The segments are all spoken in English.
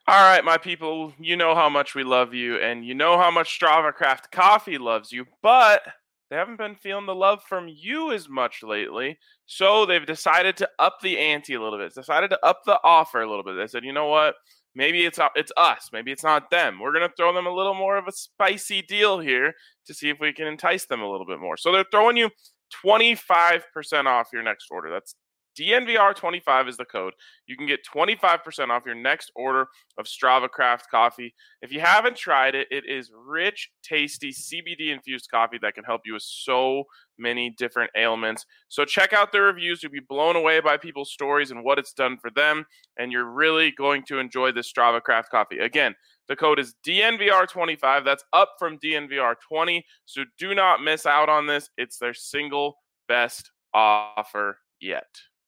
All right, my people, you know how much we love you, and you know how much Strava Craft Coffee loves you, but they haven't been feeling the love from you as much lately. So they've decided to up the ante a little bit. Decided to up the offer a little bit. They said, you know what? Maybe it's us. Maybe it's not them. We're gonna throw them a little more of a spicy deal here to see if we can entice them a little bit more. So they're throwing you 25% off your next order. That's DNVR25 is the code. You can get 25% off your next order of Strava Craft coffee. If you haven't tried it, it is rich, tasty, CBD infused coffee that can help you with so many different ailments. So check out the reviews. You'll be blown away by people's stories and what it's done for them. And you're really going to enjoy this Strava Craft coffee. Again, the code is DNVR25. That's up from DNVR20. So do not miss out on this. It's their single best offer yet.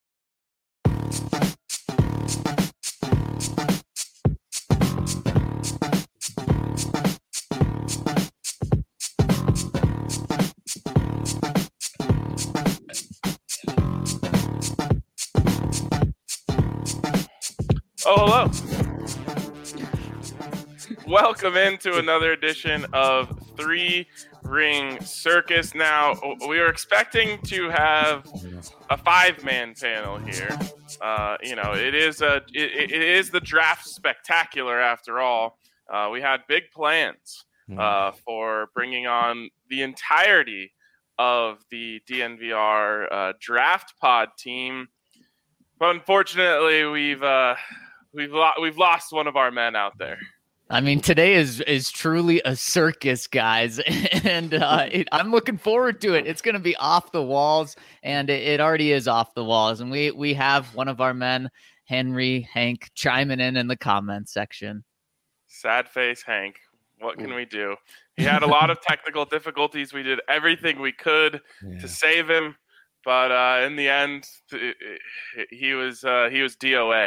Oh, hello. Welcome into another edition of Three Ring Circus. Now, we were expecting to have a five-man panel here. It is the draft spectacular after all. We had big plans for bringing on the entirety of the DNVR draft pod team, but unfortunately, we've lost one of our men out there. I mean, today is truly a circus, guys, and I'm looking forward to it. It's going to be off the walls, and it already is off the walls. And we have one of our men, Hank, chiming in the comments section. Sad face Hank. What can we do? He had a lot of technical difficulties. We did everything we could to save him, but in the end, he was DOA.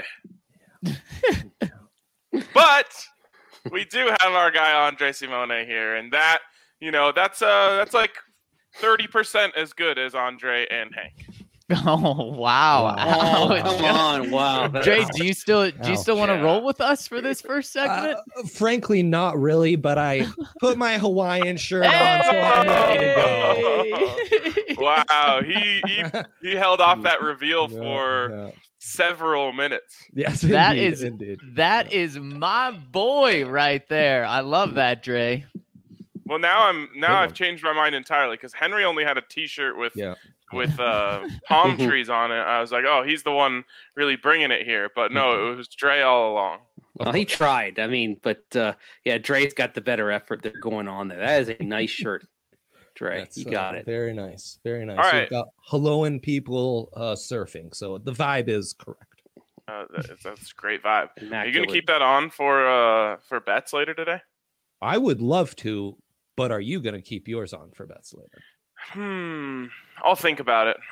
But we do have our guy Andre Simone here, and that's like 30% as good as Andre and Hank. Oh wow! Oh, come on! Wow, Jay, do you still want to roll with us for this first segment? Frankly, not really. But I put my Hawaiian shirt on, so I'm ready to go. Wow, he held off that reveal for several minutes. Yes, indeed. That is my boy right there. I love that, Dre. Well, now I've changed my mind entirely because Henry only had a T-shirt with palm trees on it. I was like, oh, he's the one really bringing it here. But no, it was Dre all along. Well, he tried. I mean, but Dre's got the better effort that's going on there. That is a nice shirt, Dre. You got it. Very nice. Very nice. All right. You've got helloing people surfing. So the vibe is correct. That's a great vibe. Immaculate. Are you going to keep that on for bets later today? I would love to, but are you going to keep yours on for bets later? I'll think about it.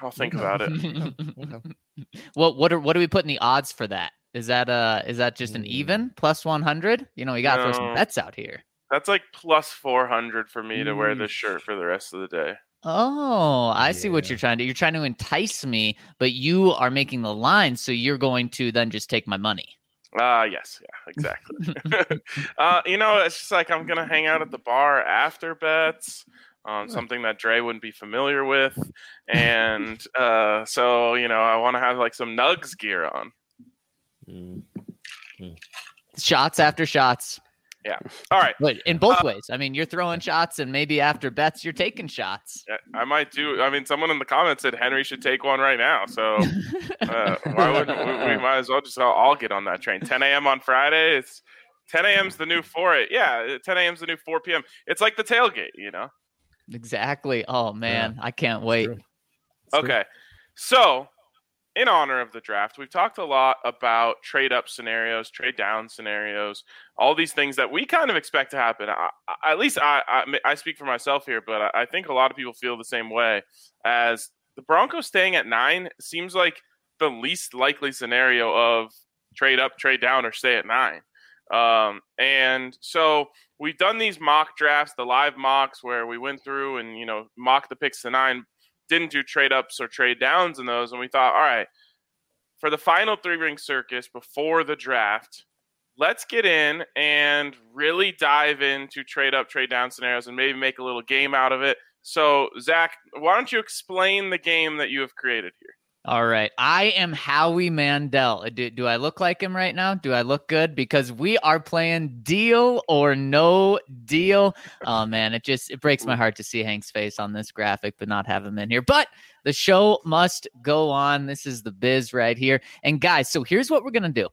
Well, what are we putting the odds for that? Is that just an even plus 100? You know, we got to throw some bets out here. That's like plus 400 for me to wear this shirt for the rest of the day. Oh, I see what you're trying to do. You're trying to entice me, but you are making the line, so you're going to then just take my money. Yes, yeah, exactly. It's just like I'm gonna hang out at the bar after bets. Something that Dre wouldn't be familiar with. And so, I want to have like some Nugs gear on. Shots after shots. Yeah. All right. But in both ways. I mean, you're throwing shots and maybe after bets, you're taking shots. Yeah, I might do. I mean, someone in the comments said Henry should take one right now. So why wouldn't we might as well just all get on that train. 10 a.m. on Friday. It's 10 a.m. is the new 4. Yeah. 10 a.m. is the new 4 p.m. It's like the tailgate, Exactly. Oh man, I can't wait. Okay. So, in honor of the draft, we've talked a lot about trade up scenarios, trade down scenarios, all these things that we kind of expect to happen. At least I speak for myself here, but I think a lot of people feel the same way. As the Broncos staying at 9 seems like the least likely scenario of trade up, trade down, or stay at 9. And so we've done these mock drafts, the live mocks where we went through and, mocked the picks to 9, didn't do trade ups or trade downs in those. And we thought, all right, for the final 3 ring circus before the draft, let's get in and really dive into trade up, trade down scenarios and maybe make a little game out of it. So, Zach, why don't you explain the game that you have created here? All right. I am Howie Mandel. Do I look like him right now? Do I look good? Because we are playing Deal or No Deal. Oh, man, it breaks my heart to see Hank's face on this graphic, but not have him in here. But the show must go on. This is the biz right here. And guys, so here's what we're going to do.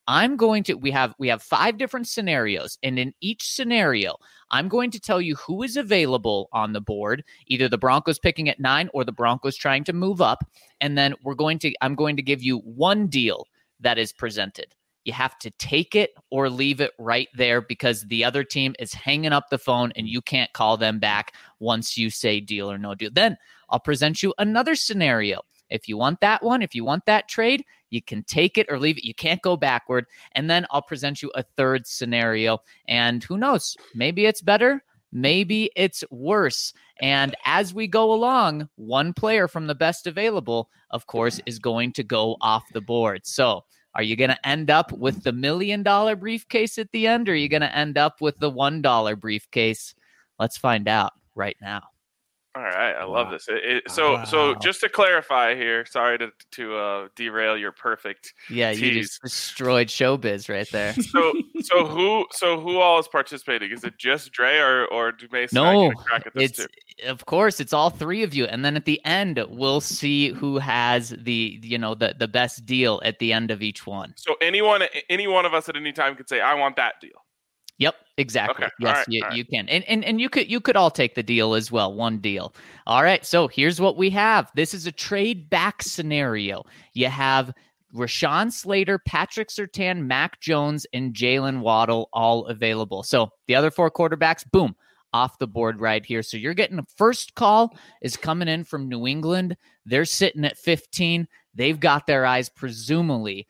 We have 5 different scenarios, and in each scenario, I'm going to tell you who is available on the board, either the Broncos picking at 9 or the Broncos trying to move up, and then I'm going to give you one deal that is presented. You have to take it or leave it right there because the other team is hanging up the phone and you can't call them back once you say deal or no deal. Then I'll present you another scenario. If you want that one, if you want that trade, you can take it or leave it. You can't go backward. And then I'll present you a third scenario. And who knows? Maybe it's better. Maybe it's worse. And as we go along, one player from the best available, of course, is going to go off the board. So are you going to end up with the $1 million briefcase at the end, or are you going to end up with the $1 briefcase? Let's find out right now. All right, I love this. So just to clarify here, sorry to derail your perfect. Yeah, tease. You just destroyed showbiz right there. So who all is participating? Is it just Dre or do Mason? No, get a crack at this too? Of course it's all 3 of you, and then at the end we'll see who has the best deal at the end of each one. So any one of us at any time could say, "I want that deal." Yep, exactly. Okay. Yes, you can. And you could all take the deal as well, one deal. All right, so here's what we have. This is a trade back scenario. You have Rashawn Slater, Patrick Surtain, Mac Jones, and Jalen Waddle all available. So the other 4 quarterbacks, boom, off the board right here. So you're getting a first call is coming in from New England. They're sitting at 15. They've got their eyes presumably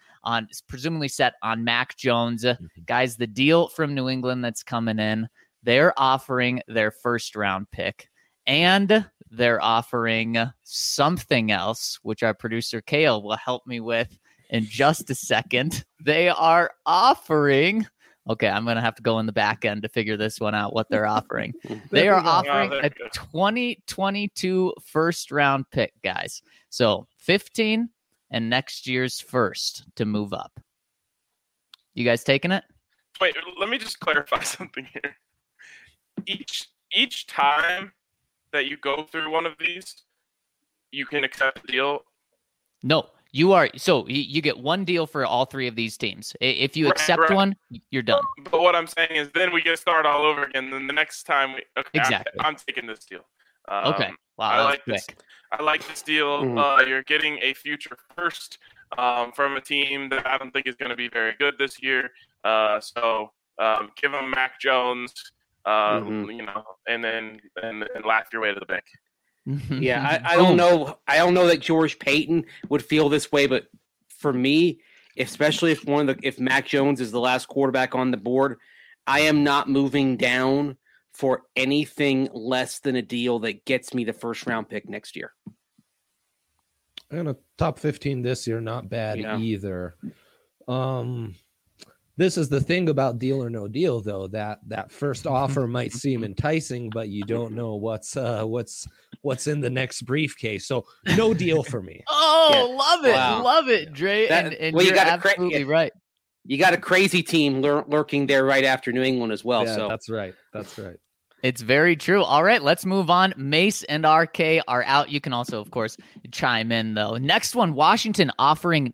set on Mac Jones. Guys, the deal from New England that's coming in, they're offering their first round pick, and they're offering something else, which our producer Kale will help me with in just a second. They are offering, okay, I'm going to have to go in the back end to figure this one out, what they're offering. They are offering a 2022 first round pick, guys. So 15 and next year's first to move up. You guys taking it? Wait, let me just clarify something here. Each time that you go through one of these, you can accept the deal. No, you are. So you get one deal for all 3 of these teams. If you accept one, you're done. But what I'm saying is, then we get to start all over again. Then the next time, exactly. I'm taking this deal. Okay. Wow. I like this. I like this deal. You're getting a future first from a team that I don't think is going to be very good this year. So give them Mac Jones, and then laugh your way to the bank. Yeah, I don't know. I don't know that George Payton would feel this way, but for me, especially if Mac Jones is the last quarterback on the board, I am not moving down for anything less than a deal that gets me the first round pick next year. And a top 15 this year, not bad either. This is the thing about deal or no deal, though, that first offer might seem enticing, but you don't know what's in the next briefcase. So no deal for me. Love it. Wow. Love it, Dre. And you're absolutely right. You got a crazy team lurking there right after New England as well. Yeah, so that's right. That's right. It's very true. All right, let's move on. Mace and RK are out. You can also, of course, chime in, though. Next one, Washington offering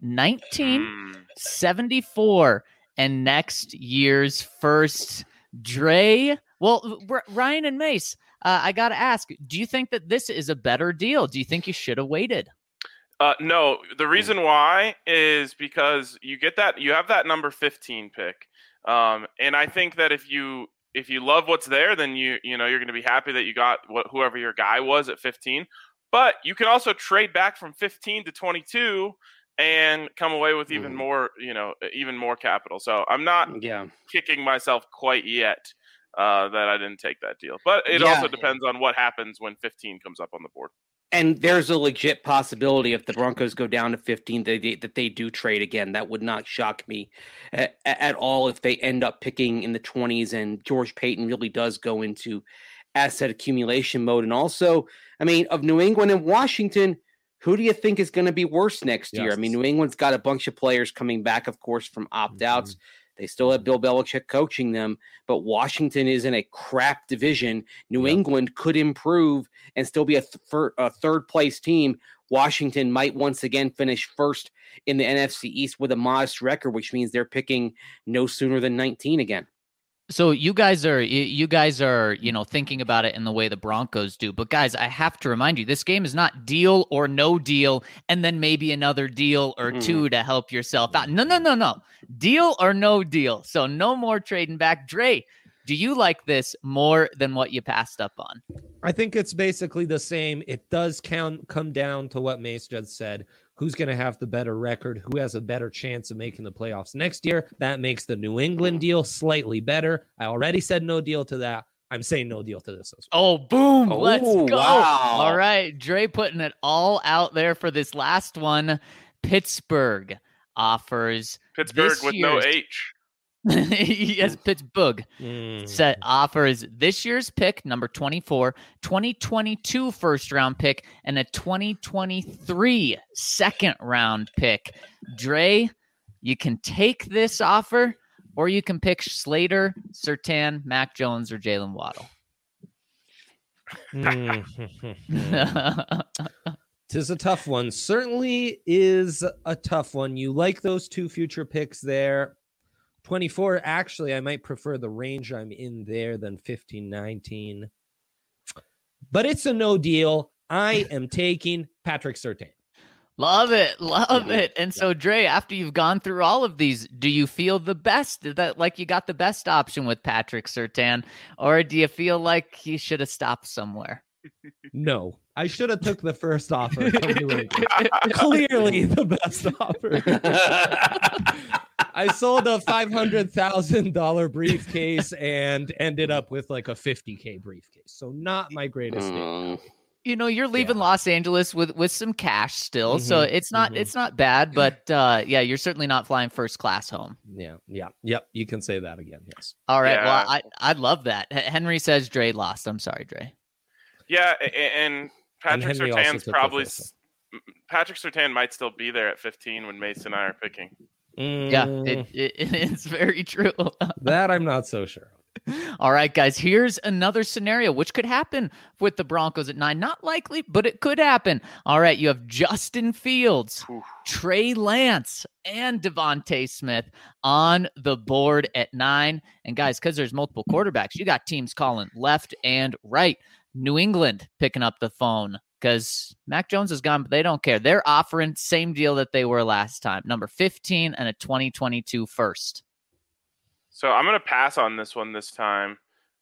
1974 and next year's first. Dre, well, Ryan and Mace, I got to ask, do you think that this is a better deal? Do you think you should have waited? No, the reason why is because you have that number 15 pick. And I think that if you love what's there, then you're going to be happy that you got whoever your guy was at 15. But you can also trade back from 15 to 22 and come away with even more capital. So I'm not kicking myself quite yet that I didn't take that deal. But it also depends on what happens when 15 comes up on the board. And there's a legit possibility if the Broncos go down to 15 that they do trade again. That would not shock me at all if they end up picking in the 20s and George Payton really does go into asset accumulation mode. And also, I mean, of New England and Washington, who do you think is going to be worse next year? I mean, New England's got a bunch of players coming back, of course, from opt-outs. Mm-hmm. They still have Bill Belichick coaching them, but Washington is in a crap division. New England could improve and still be a third-place team. Washington might once again finish first in the NFC East with a modest record, which means they're picking no sooner than 19 again. So you guys are, thinking about it in the way the Broncos do. But guys, I have to remind you, this game is not deal or no deal, and then maybe another deal or two to help yourself out. No. Deal or no deal. So no more trading back. Dre, do you like this more than what you passed up on? I think it's basically the same. It does come down to what Mace just said. Who's going to have the better record? Who has a better chance of making the playoffs next year? That makes the New England deal slightly better. I already said no deal to that. I'm saying no deal to this as well. Oh, boom. Let's go. Wow. All right. Dre putting it all out there for this last one. Pittsburgh offers Pittsburgh with no H. Yes, Pittsburgh offers this year's pick, number 24, 2022 first round pick, and a 2023 second round pick. Dre, you can take this offer, or you can pick Slater, Surtain, Mac Jones, or Jalen Waddle. Tis a tough one. Certainly is a tough one. You like those two future picks there. 24, actually, I might prefer the range I'm in there than 15, 19. But it's a no deal. I am taking Patrick Surtain. Love it. Love it. And so, Dre, after you've gone through all of these, do you feel the best? That like you got the best option with Patrick Surtain? Or do you feel like you should have stopped somewhere? No. I should have took the first offer. Clearly the best offer. I sold a $500,000 briefcase and ended up with like a $50K briefcase. So not my greatest day. You're leaving Los Angeles with some cash still. So it's not bad, but you're certainly not flying first class home. Yep. You can say that again. Yes. All right. Yeah. Well, I love that. Henry says Dre lost. I'm sorry, Dre. Yeah. And Patrick Surtain's probably Patrick Surtain might still be there at 15 when Mason and I are picking. Yeah, it's very true. That I'm not so sure. All right, guys, here's another scenario which could happen with the Broncos at 9. Not likely, but it could happen. All right, you have Justin Fields, Trey Lance, and Devontae Smith on the board at 9. And guys, because there's multiple quarterbacks, you got teams calling left and right. New England picking up the phone because Mac Jones is gone, but they don't care. They're offering same deal that they were last time, number 15 and a 2022 first. So I'm going to pass on this one this time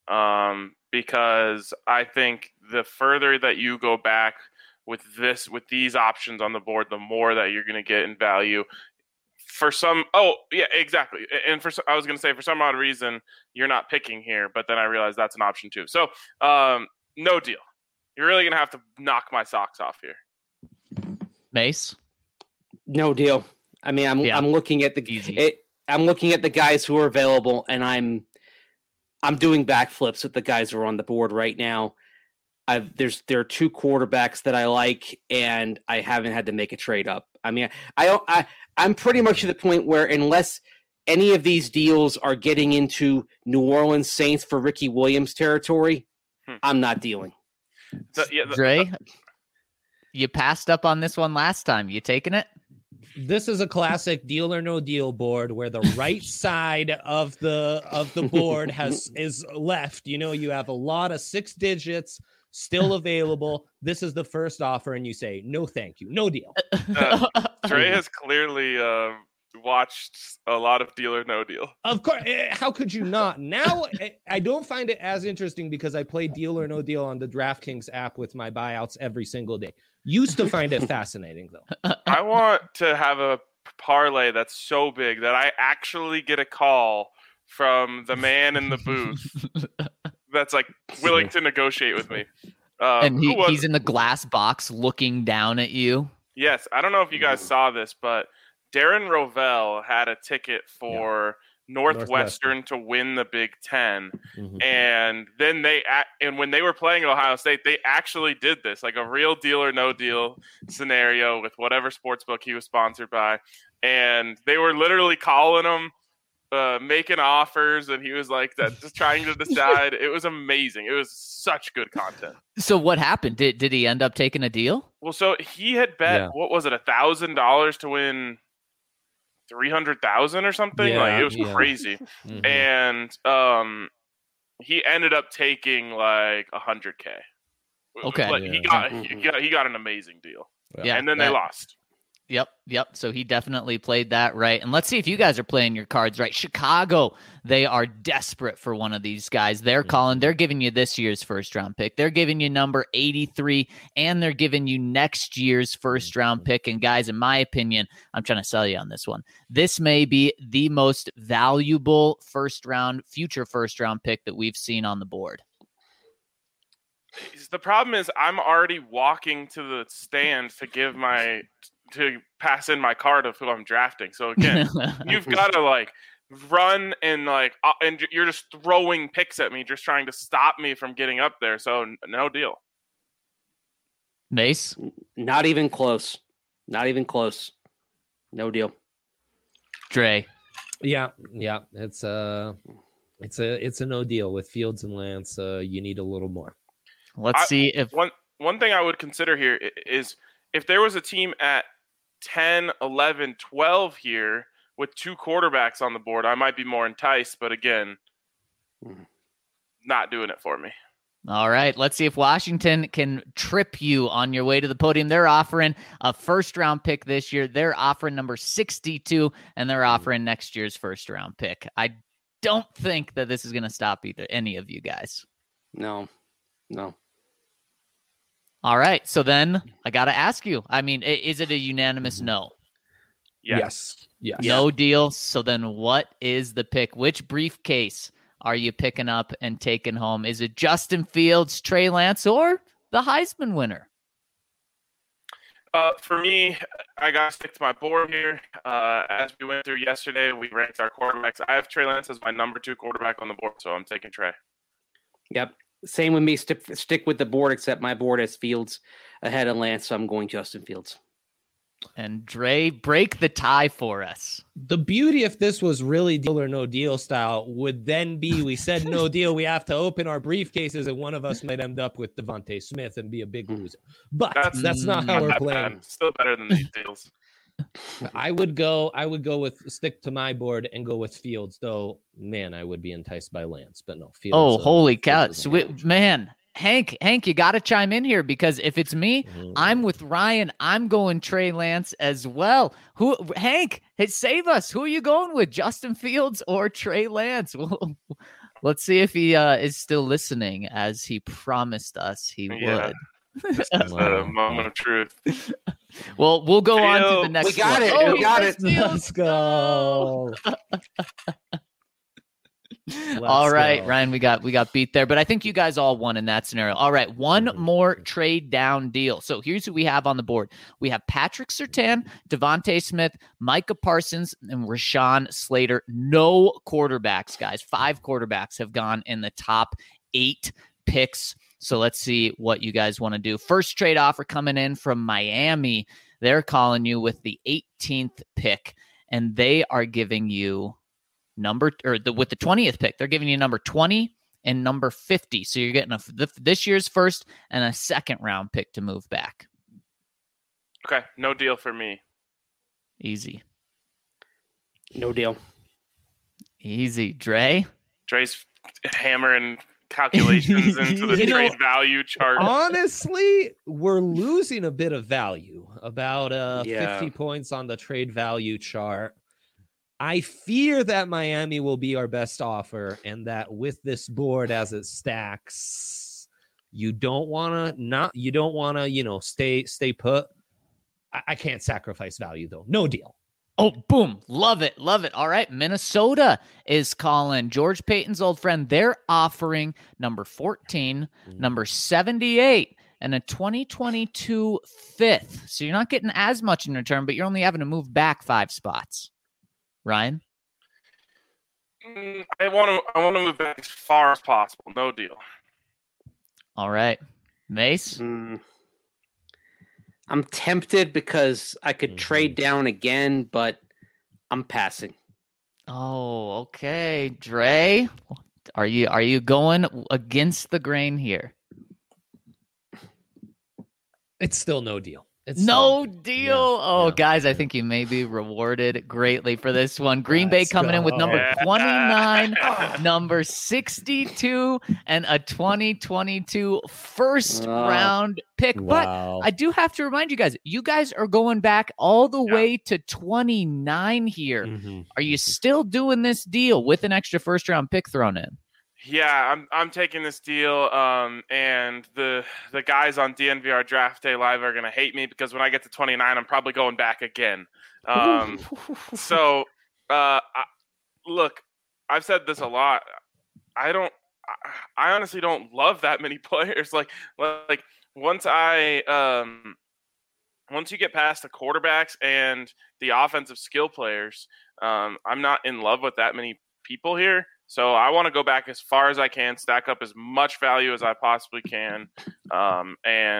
because I think the further that you go back with these options on the board, the more that you're going to get in value. For some, exactly. And I was going to say for some odd reason you're not picking here, but then I realized that's an option too. So no deal. You're really going to have to knock my socks off here. Mace? No deal. I mean, I'm looking at I'm looking at the guys who are available, and I'm doing backflips with the guys who are on the board right now. There are two quarterbacks that I like, and I haven't had to make a trade up. I mean, I'm pretty much to the point where unless any of these deals are getting into New Orleans Saints for Ricky Williams territory, I'm not dealing. Dre, you passed up on this one last time. You taking it? This is a classic deal or no deal board where the right side of the board is left. You have a lot of 6 digits still available. This is the first offer, and you say no, thank you, no deal. Dre has clearly watched a lot of Deal or No Deal. Of course. How could you not? Now, I don't find it as interesting because I play Deal or No Deal on the DraftKings app with my buyouts every single day. Used to find it fascinating, though. I want to have a parlay that's so big that I actually get a call from the man in the booth that's like willing to negotiate with me. And he's in the glass box looking down at you. Yes, I don't know if you guys saw this, but Darren Rovell had a ticket for Northwestern to win the Big Ten, and then when they were playing Ohio State, they actually did this, like a real deal or no deal scenario with whatever sportsbook he was sponsored by, and they were literally calling him, making offers, and he was like that, just trying to decide. It was amazing. It was such good content. So what happened? Did he end up taking a deal? Well, so he had bet what was it, $1,000 to win 300,000 or something. Like, it was crazy. And he ended up taking like 100K. Okay, like, he got an amazing deal. Yeah, and then they lost. Yep. So he definitely played that right. And let's see if you guys are playing your cards right. Chicago, they are desperate for one of these guys. They're giving you this year's first round pick. They're giving you number 83, and they're giving you next year's first round pick. And guys, in my opinion, I'm trying to sell you on this one. This may be the most valuable future first round pick that we've seen on the board. The problem is I'm already walking to the stand to pass in my card of who I'm drafting. So again, you've got to like run and you're just throwing picks at me, just trying to stop me from getting up there. So no deal. Mace? Not even close. Not even close. No deal. Dre? Yeah. It's a no deal with Fields and Lance. You need a little more. Let's see if one thing I would consider here is if there was a team at 10, 11, 12 here with two quarterbacks on the board, I might be more enticed, but again, not doing it for me. All right, let's see if Washington can trip you on your way to the podium. They're offering a first-round pick this year. They're offering number 62, and they're offering next year's first-round pick. I don't think that this is going to stop any of you guys. No. All right, so then I got to ask you. I mean, is it a unanimous no? Yes. No deal. So then what is the pick? Which briefcase are you picking up and taking home? Is it Justin Fields, Trey Lance, or the Heisman winner? For me, I got to stick to my board here. As we went through yesterday, we ranked our quarterbacks. I have Trey Lance as my number 2 quarterback on the board, so I'm taking Trey. Yep. Same with me. Stick with the board, except my board has Fields ahead of Lance, so I'm going Justin Fields. And Dre, break the tie for us. The beauty, if this was really deal or no deal style, would then be we said no deal. We have to open our briefcases, and one of us might end up with Devontae Smith and be a big loser. But that's not how we're playing. Bad. Still better than these deals. I would go with stick to my board and go with Fields, though. Man, I would be enticed by Lance, but no. Fields, oh, holy cow! Man, Hank, you got to chime in here, because if it's me, I'm with Ryan. I'm going Trey Lance as well. Hank, hey, save us. Who are you going with, Justin Fields or Trey Lance? Well, let's see if he is still listening, as he promised us he would. This is a moment of truth. Well, we'll go on to the next one. We got it. We got it. Let's go. All right, Ryan, we got beat there, but I think you guys all won in that scenario. All right, one more trade down deal. So here's who we have on the board. We have Patrick Surtain, Devontae Smith, Micah Parsons, and Rashawn Slater. No quarterbacks, guys. 5 quarterbacks have gone in the top 8 picks. So let's see what you guys want to do. First trade offer coming in from Miami. They're calling you with the 18th pick, and they are giving you with the 20th pick. They're giving you number 20 and number 50. So you're getting this year's first and a second round pick to move back. Okay, no deal for me. Easy. No deal. Easy. Dre's hammering calculations into the trade value chart. Honestly, we're losing a bit of value, about 50 points on the trade value chart. I fear that Miami will be our best offer, and that with this board as it stacks, you don't want to stay put. I can't sacrifice value though. No deal. Oh, boom. Love it. Love it. All right. Minnesota is calling George Payton's old friend. They're offering number 14, number 78, and a 2022 fifth. So you're not getting as much in return, but you're only having to move back 5 spots. Ryan? I want to move back as far as possible. No deal. All right. Mace? I'm tempted because I could trade down again, but I'm passing. Oh, okay. Dre, are you going against the grain here? It's still no deal. It's no deal. Yeah, oh, yeah. Guys, I think you may be rewarded greatly for this one. Green Bay coming in with number 29, number 62, and a 2022 first round pick. Wow. But I do have to remind you guys are going back all the way to 29 here. Are you still doing this deal with an extra first round pick thrown in? Yeah, I'm taking this deal, and the guys on DNVR Draft Day Live are gonna hate me because when I get to 29, I'm probably going back again. Look, I've said this a lot. I honestly don't love that many players. Like once you get past the quarterbacks and the offensive skill players, I'm not in love with that many people here. So I want to go back as far as I can, stack up as much value as I possibly can, I'm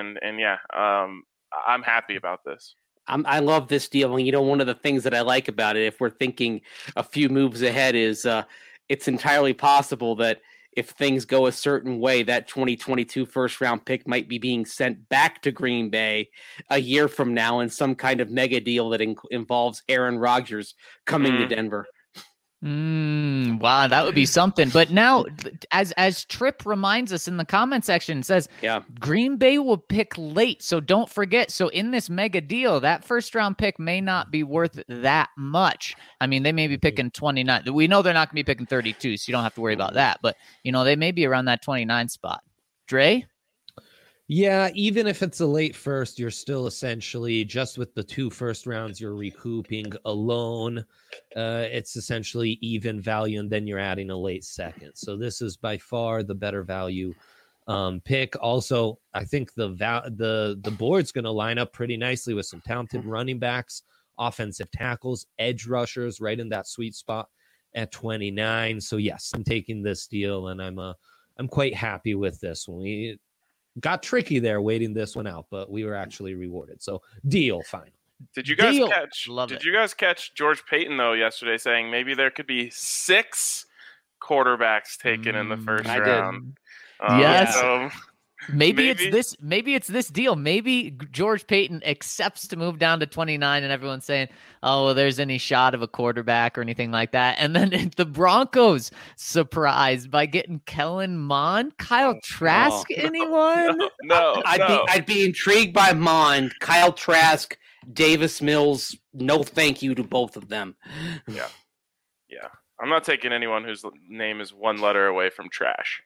happy about this. I love this deal, and one of the things that I like about it, if we're thinking a few moves ahead, is it's entirely possible that if things go a certain way, that 2022 first round pick might be being sent back to Green Bay a year from now in some kind of mega deal that involves Aaron Rodgers coming to Denver. Wow, that would be something. But now, as Tripp reminds us in the comment section, says, Green Bay will pick late, so don't forget. So in this mega deal, that first round pick may not be worth that much. I mean, they may be picking 29. We know they're not going to be picking 32, so you don't have to worry about that. But, they may be around that 29 spot. Dre? Yeah, even if it's a late first, you're still essentially just with the 2 first rounds you're recouping alone. It's essentially even value, and then you're adding a late second. So this is by far the better value pick. Also, I think the board's going to line up pretty nicely with some talented running backs, offensive tackles, edge rushers, right in that sweet spot at 29. So yes, I'm taking this deal, and I'm quite happy with this one. We got tricky there waiting this one out, but we were actually rewarded. So deal, fine. Did you guys catch George Payton though yesterday saying maybe there could be 6 quarterbacks taken in the first round? Yes. So maybe it's this deal. Maybe George Payton accepts to move down to 29 and everyone's saying, oh, well, there's any shot of a quarterback or anything like that. And then the Broncos surprised by getting Kellen Mond, Kyle Trask, anyone? No. I'd be intrigued by Mond, Kyle Trask, Davis Mills. No thank you to both of them. Yeah. I'm not taking anyone whose name is 1 letter away from trash.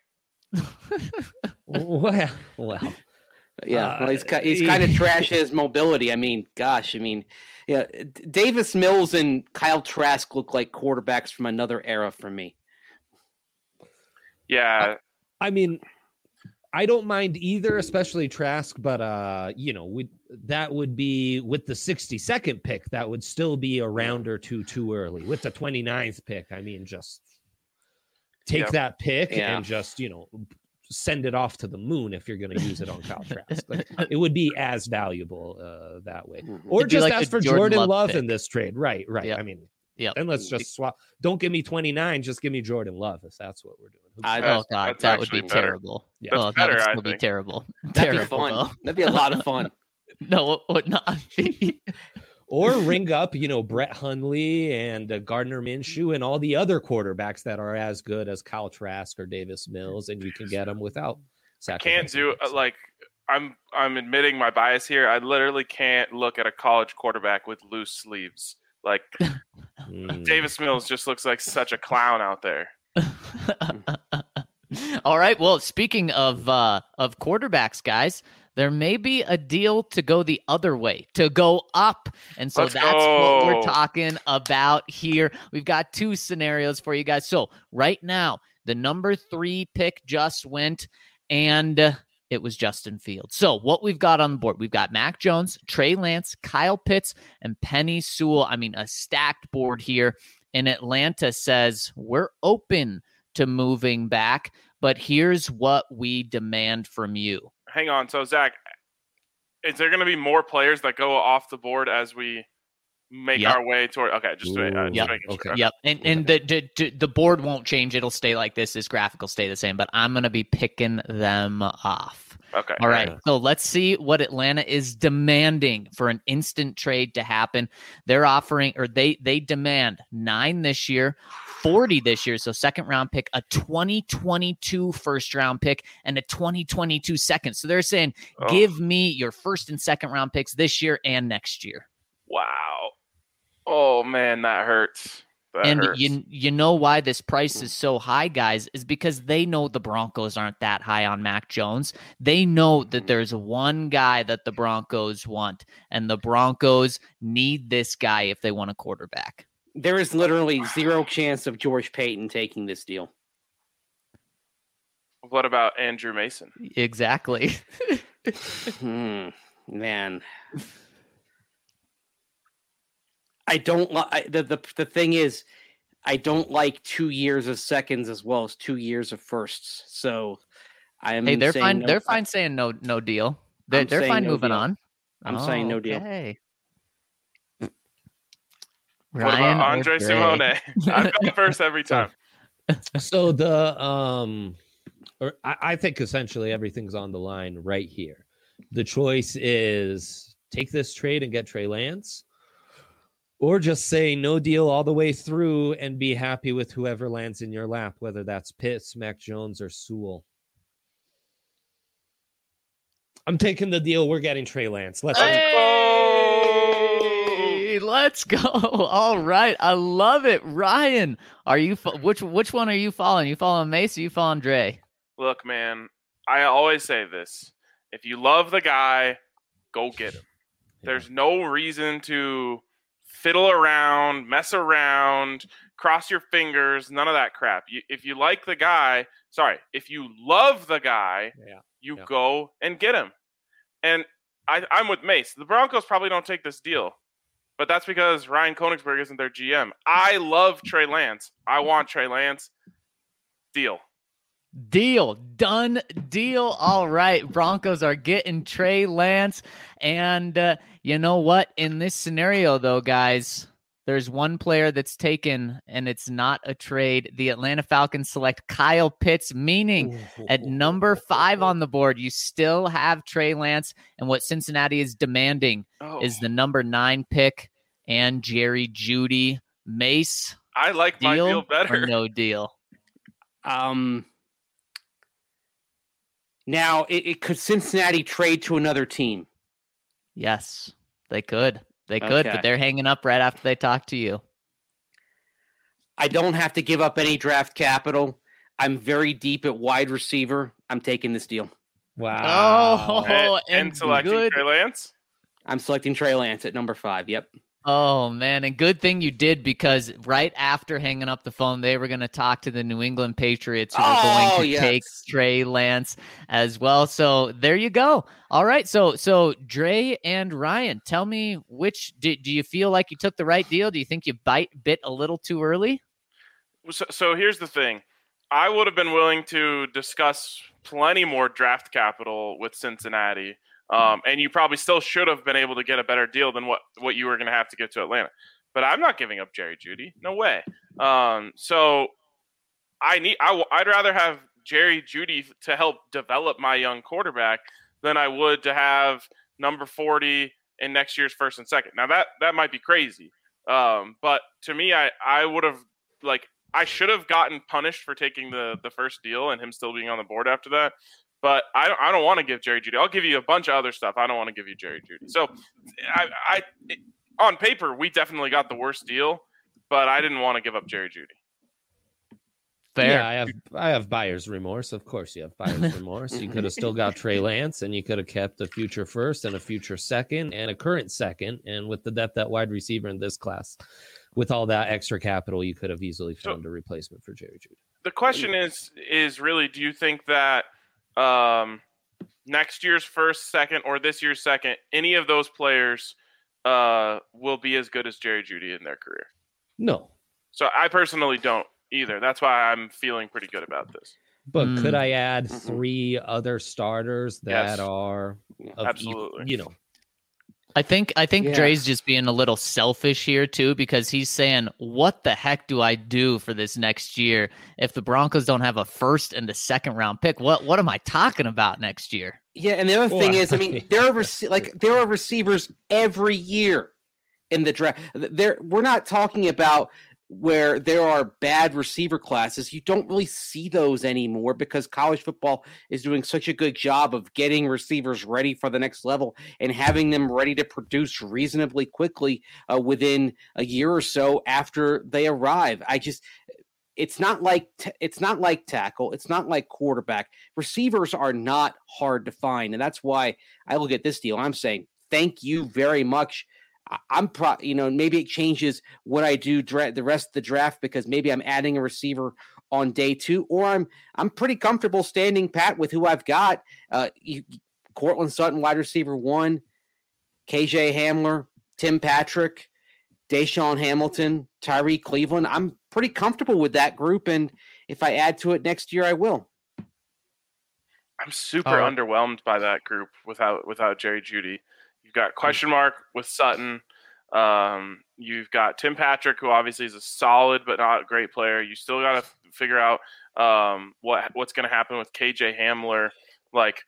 Well, yeah. He's kind of trash his mobility. I mean, gosh, Davis Mills and Kyle Trask look like quarterbacks from another era for me. Yeah, I mean, I don't mind either, especially Trask, but that would be with the 62nd pick. That would still be a round or two too early. With the 29th pick, I mean, just take that pick and just send it off to the moon if you're going to use it on Kyle Trask. It would be as valuable that way. Or It'd just like ask for Jordan Love in this trade. Right. Yep. I mean, then let's just swap. Don't give me 29. Just give me Jordan Love if that's what we're doing. That would be terrible. Yeah. That's better, that would be terrible. That'd be fun. That'd be a lot of fun. No, it would not be. Or ring up, Brett Hundley and Gardner Minshew and all the other quarterbacks that are as good as Kyle Trask or Davis Mills, and you can get them without sacrificing. Can't do I'm admitting my bias here. I literally can't look at a college quarterback with loose sleeves. Like Davis Mills just looks like such a clown out there. All right. Well, speaking of quarterbacks, guys, there may be a deal to go the other way, to go up. And so Let's that's what we're go. talking about here. We've got two scenarios for you guys. So right now, the number 3 pick just went, and it was Justin Fields. So what we've got on the board, we've got Mac Jones, Trey Lance, Kyle Pitts, and Penny Sewell. I mean, a stacked board here. And Atlanta says, we're open to moving back, but here's what we demand from you. Hang on. So, Zach, is there going to be more players that go off the board as we make our way toward? Okay, just making sure. Yep. And the board won't change. It'll stay like this. This graphic will stay the same, but I'm going to be picking them off. Okay. All right. So let's see what Atlanta is demanding for an instant trade to happen. They're offering, or they demand 9 this year, 40 this year. So second round pick, a 2022 first round pick, and a 2022 second. So they're saying, give me your first and second round picks this year and next year. Wow. Oh man, that hurts. You know why this price is so high, guys, is because they know the Broncos aren't that high on Mac Jones. They know that there's one guy that the Broncos want, and the Broncos need this guy if they want a quarterback. There is literally zero chance of George Paton taking this deal. What about Andrew Mason? Exactly. Man. I don't like the thing is, I don't like 2 years of seconds as well as 2 years of firsts. So I'm they're fine. They're fine saying no deal. They're fine moving on. I'm saying no deal. Okay. What Ryan about Andre Simone? I've gone first every time. So I think essentially everything's on the line right here. The choice is take this trade and get Trey Lance, or just say no deal all the way through and be happy with whoever lands in your lap, whether that's Pitts, Mac Jones, or Sewell. I'm taking the deal. We're getting Trey Lance. Let's go. Let's go. All right. I love it. Ryan, are you which one are you following? You following Mace or you following Dre? Look, man, I always say this. If you love the guy, go get him. Yeah. There's no reason to fiddle around, mess around, cross your fingers, none of that crap. If you like the guy, if you love the guy, you go and get him. And I'm with Mace. The Broncos probably don't take this deal, but that's because Ryan Koenigsberg isn't their GM. I love Trey Lance. I want Trey Lance. Deal. Done deal. All right. Broncos are getting Trey Lance. And you know what? In this scenario, though, guys, there's one player that's taken, and it's not a trade. The Atlanta Falcons select Kyle Pitts, meaning at number 5 on the board, you still have Trey Lance. And what Cincinnati is demanding is the number 9 pick and Jerry Jeudy. Mace, I like my deal better. Or no deal? Now, could Cincinnati trade to another team? Yes, they could. They could, but they're hanging up right after they talk to you. I don't have to give up any draft capital. I'm very deep at wide receiver. I'm taking this deal. Wow. And selecting Trey Lance? I'm selecting Trey Lance at number 5. Yep. Oh, man. And good thing you did, because right after hanging up the phone, they were going to talk to the New England Patriots, who were going to take Trey Lance as well. So there you go. All right. So Dre and Ryan, tell me which do you feel like you took the right deal? Do you think you bit a little too early? So here's the thing. I would have been willing to discuss plenty more draft capital with Cincinnati. And you probably still should have been able to get a better deal than what you were going to have to get to Atlanta. But I'm not giving up Jerry Jeudy. No way. So I'd rather have Jerry Jeudy to help develop my young quarterback than I would to have number 40 in next year's first and second. Now that might be crazy. But to me, I would have I should have gotten punished for taking the first deal and him still being on the board after that. But I don't want to give Jerry Jeudy. I'll give you a bunch of other stuff. I don't want to give you Jerry Jeudy. So, on paper, we definitely got the worst deal, but I didn't want to give up Jerry Jeudy. fair. Yeah, I have buyer's remorse. Of course, you have buyer's remorse. You could have still got Trey Lance, and you could have kept a future first and a future second and a current second. And with the depth at wide receiver in this class, with all that extra capital, you could have easily found a replacement for Jerry Jeudy. The question is really, do you think that next year's first, second, or this year's second, any of those players will be as good as Jerry Jeudy in their career? No. So I personally don't either. That's why I'm feeling pretty good about this. But could I add 3 other starters that are absolutely, I think Dre's just being a little selfish here too, because he's saying, what the heck do I do for this next year if the Broncos don't have a first and a second round pick? What am I talking about next year? Yeah, and the other thing is, I mean, there are receivers every year in the draft. We're not talking about where there are bad receiver classes. You don't really see those anymore because college football is doing such a good job of getting receivers ready for the next level and having them ready to produce reasonably quickly within a year or so after they arrive. It's not like tackle. It's not like quarterback. Receivers are not hard to find. And that's why I look at this deal. I'm saying, thank you very much. Maybe it changes what I do the rest of the draft because maybe I'm adding a receiver on day 2, or I'm pretty comfortable standing pat with who I've got. Courtland Sutton, wide receiver 1, KJ Hamler, Tim Patrick, Deshaun Hamilton, Tyree Cleveland. I'm pretty comfortable with that group, and if I add to it next year, I will. I'm super underwhelmed by that group without Jerry Jeudy. You've got question mark with Sutton. You've got Tim Patrick, who obviously is a solid but not a great player. You still got to figure out what's going to happen with KJ Hamler. Like,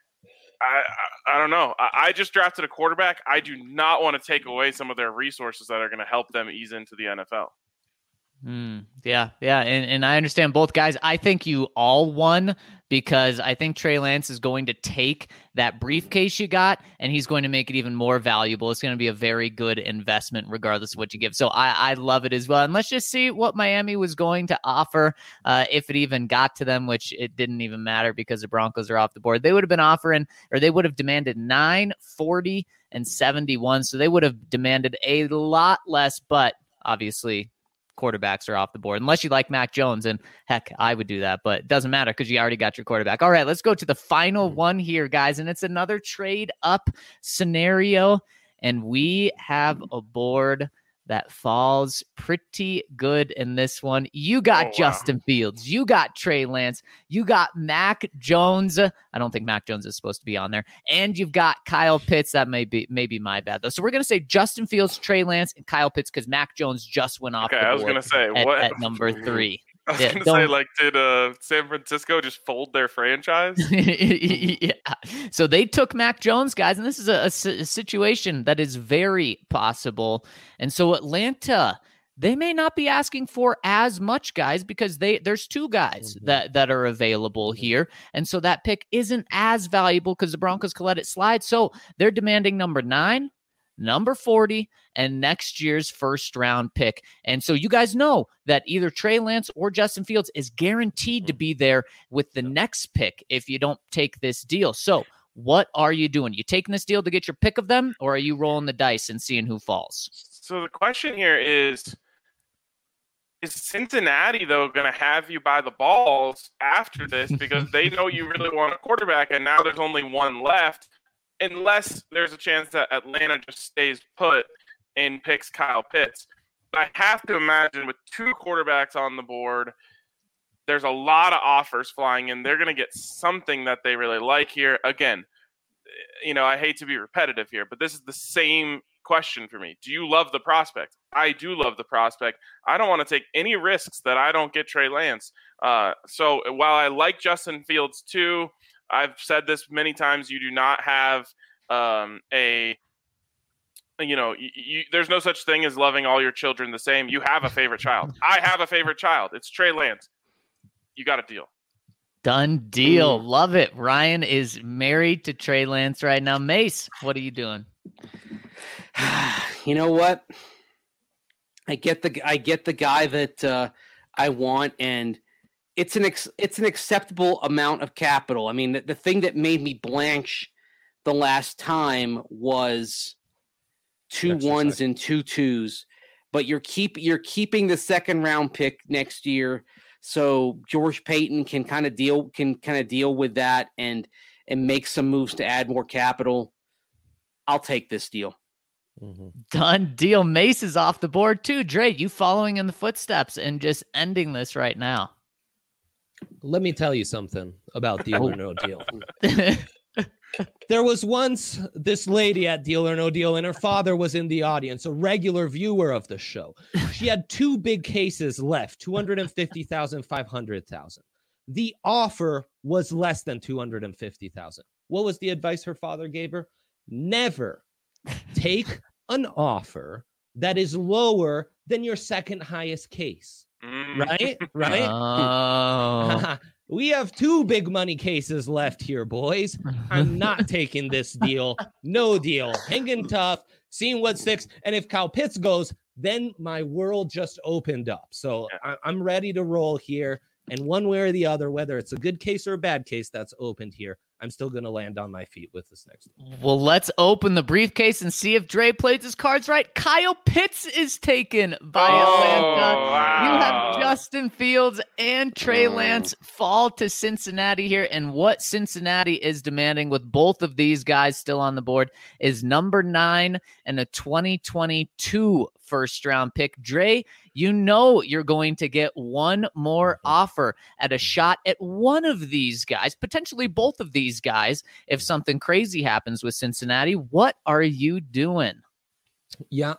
I don't know. I just drafted a quarterback. I do not want to take away some of their resources that are going to help them ease into the NFL. Yeah. And I understand both guys. I think you all won because I think Trey Lance is going to take that briefcase you got and he's going to make it even more valuable. It's going to be a very good investment regardless of what you give. So I love it as well. And let's just see what Miami was going to offer if it even got to them, which it didn't even matter because the Broncos are off the board. They would have been offering, or they would have demanded 9, 40, and 71. So they would have demanded a lot less, but obviously quarterbacks are off the board unless you like Mac Jones, and heck, I would do that, but it doesn't matter because you already got your quarterback. All right, let's go to the final one here, guys, and it's another trade up scenario, and we have a board that falls pretty good in this one. You got Justin Fields, you got Trey Lance, you got Mac Jones. I don't think Mac Jones is supposed to be on there, and you've got Kyle Pitts. That may be my bad though. So we're gonna say Justin Fields, Trey Lance, and Kyle Pitts because Mac Jones just went off. Okay, I was gonna say at number 3. I was going to say, like, did San Francisco just fold their franchise? Yeah. So they took Mac Jones, guys, and this is a situation that is very possible. And so Atlanta, they may not be asking for as much, guys, because there's 2 guys that are available here. And so that pick isn't as valuable because the Broncos can let it slide. So they're demanding number 9, number 40, and next year's first round pick. And so you guys know that either Trey Lance or Justin Fields is guaranteed to be there with the next pick if you don't take this deal. So what are you doing? You taking this deal to get your pick of them, or are you rolling the dice and seeing who falls? So the question here is Cincinnati, though, going to have you by the balls after this because they know you really want a quarterback, and now there's only one left, unless there's a chance that Atlanta just stays put and picks Kyle Pitts. But I have to imagine with 2 quarterbacks on the board, there's a lot of offers flying in. They're going to get something that they really like here. Again, I hate to be repetitive here, but this is the same question for me. Do you love the prospect? I do love the prospect. I don't want to take any risks that I don't get Trey Lance. So while I like Justin Fields too, I've said this many times, you do not have there's no such thing as loving all your children the same. You have a favorite child. I have a favorite child. It's Trey Lance. You got a deal. Done deal. Love it. Ryan is married to Trey Lance right now. Mace, what are you doing? You know what? I get the guy that I want, and it's an acceptable amount of capital. I mean, the thing that made me blanch the last time was 2 1s and 2 2s, but you're keeping the second round pick next year, so George Paton can kind of deal with that and make some moves to add more capital. I'll take this deal. Mm-hmm. Done deal. Mace is off the board too. Dre, you following in the footsteps and just ending this right now. Let me tell you something about Deal or No Deal. There was once this lady at Deal or No Deal, and her father was in the audience, a regular viewer of the show. She had 2 big cases left, 250,000, 500,000. The offer was less than 250,000. What was the advice her father gave her? Never take an offer that is lower than your second highest case. Right? Oh. We have 2 big money cases left here, boys. I'm not taking this deal. No deal. Hanging tough, seeing what sticks. And if Kyle Pitts goes, then my world just opened up. So I'm ready to roll here. And one way or the other, whether it's a good case or a bad case that's opened here, I'm still going to land on my feet with this next one. Well, let's open the briefcase and see if Dre plays his cards right. Kyle Pitts is taken by Atlanta. Wow. You have Justin Fields and Trey Lance fall to Cincinnati here. And what Cincinnati is demanding with both of these guys still on the board is number 9 and a 2022 first-round pick. Dre, you know you're going to get one more offer at a shot at one of these guys, potentially both of these guys, if something crazy happens with Cincinnati. What are you doing? Yeah,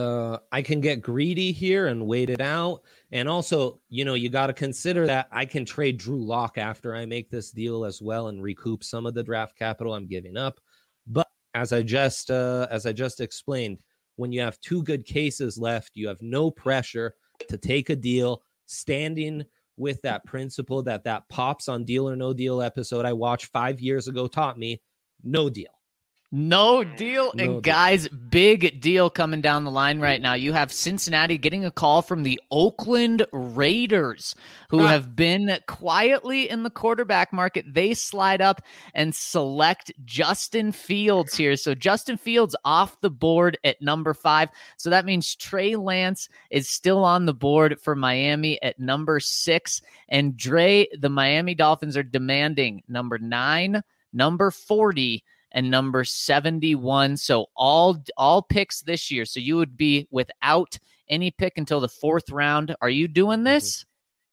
I can get greedy here and wait it out. And also, you got to consider that I can trade Drew Lock after I make this deal as well and recoup some of the draft capital I'm giving up. But as I just explained, when you have 2 good cases left, you have no pressure to take a deal, standing with that principle that Pops on Deal or No Deal episode I watched 5 years ago taught me. No deal. No deal. And guys, big deal coming down the line right now. You have Cincinnati getting a call from the Oakland Raiders, who have been quietly in the quarterback market. They slide up and select Justin Fields here. So Justin Fields off the board at number 5. So that means Trey Lance is still on the board for Miami at number 6. And Dre, the Miami Dolphins are demanding number 9, number 40, and number 71. So all picks this year. So you would be without any pick until the 4th round. Are you doing this?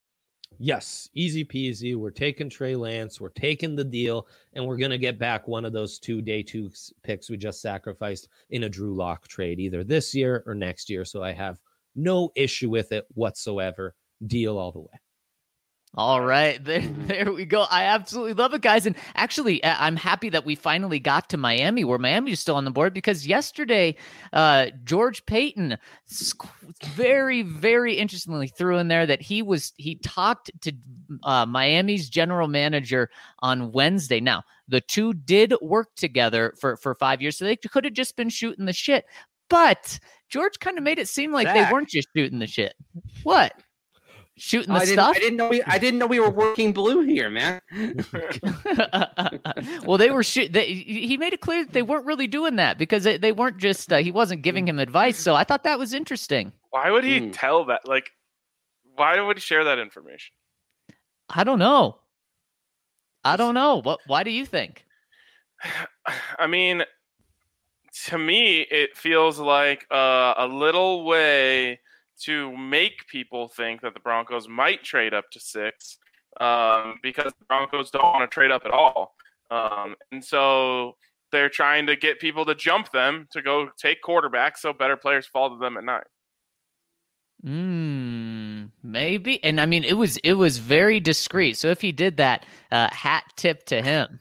Yes, easy peasy. We're taking Trey Lance. We're taking the deal, and we're going to get back one of those 2 day 2 picks we just sacrificed in a Drew Lock trade, either this year or next year. So I have no issue with it whatsoever. Deal all the way. All right, there we go. I absolutely love it, guys. And actually, I'm happy that we finally got to Miami, where Miami is still on the board, because yesterday, George Paton very, very interestingly threw in there that he talked to Miami's general manager on Wednesday. Now, the 2 did work together for 5 years, so they could have just been shooting the shit. But George kind of made it seem like they weren't just shooting the shit. What? Shooting the stuff? I didn't know we were working blue here, man. Well, they were he made it clear that they weren't really doing that, because they weren't just he wasn't giving him advice. So I thought that was interesting. Why would he tell that? Like, why would he share that information? I don't know. Why do you think? I mean, to me, it feels like a little way to make people think that the Broncos might trade up to 6, because the Broncos don't want to trade up at all. And so they're trying to get people to jump them to go take quarterbacks so better players fall to them at 9. Maybe. And I mean, it was very discreet. So if he did that, hat tip to him.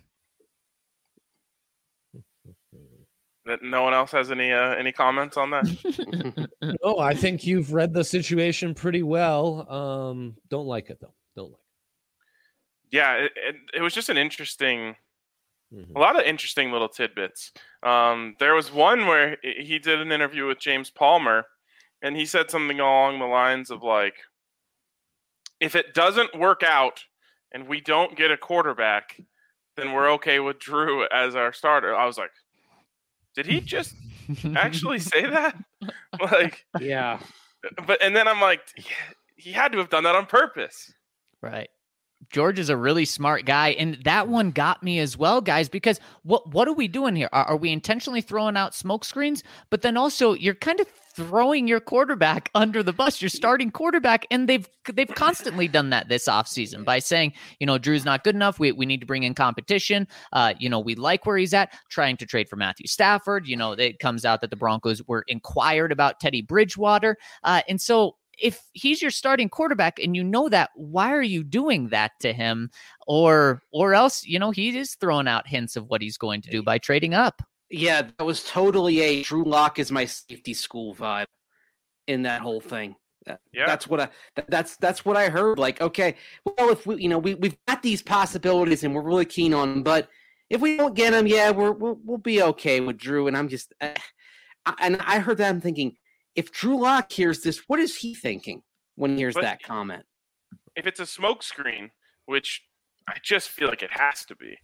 No one else has any comments on that? No, I think you've read the situation pretty well. Don't like it, though. Don't like it. Yeah, it was just an interesting, a lot of interesting little tidbits. There was one where he did an interview with James Palmer, and he said something along the lines of like, if it doesn't work out and we don't get a quarterback, then we're okay with Drew as our starter. I was like, did he just actually say that? Like, yeah. But and then I'm like, he had to have done that on purpose. Right. George is a really smart guy, and that one got me as well, guys, because what are we doing here? Are we intentionally throwing out smoke screens? But then also you're kind of throwing your quarterback under the bus, your starting quarterback, and they've constantly done that this offseason by saying, Drew's not good enough. We need to bring in competition. We like where he's at, trying to trade for Matthew Stafford. It comes out that the Broncos were inquired about Teddy Bridgewater. And so if he's your starting quarterback and that, why are you doing that to him? Or else, he is throwing out hints of what he's going to do by trading up. Yeah, that was totally a Drew Lock is my safety school vibe in that whole thing. Yeah. That's what I heard. Like, okay, well, if we've got these possibilities and we're really keen on them, but if we don't get them, yeah, we'll be okay with Drew. And I'm just, and I heard that, I'm thinking, if Drew Lock hears this, what is he thinking when he hears that comment? If it's a smokescreen, which I just feel like it has to be,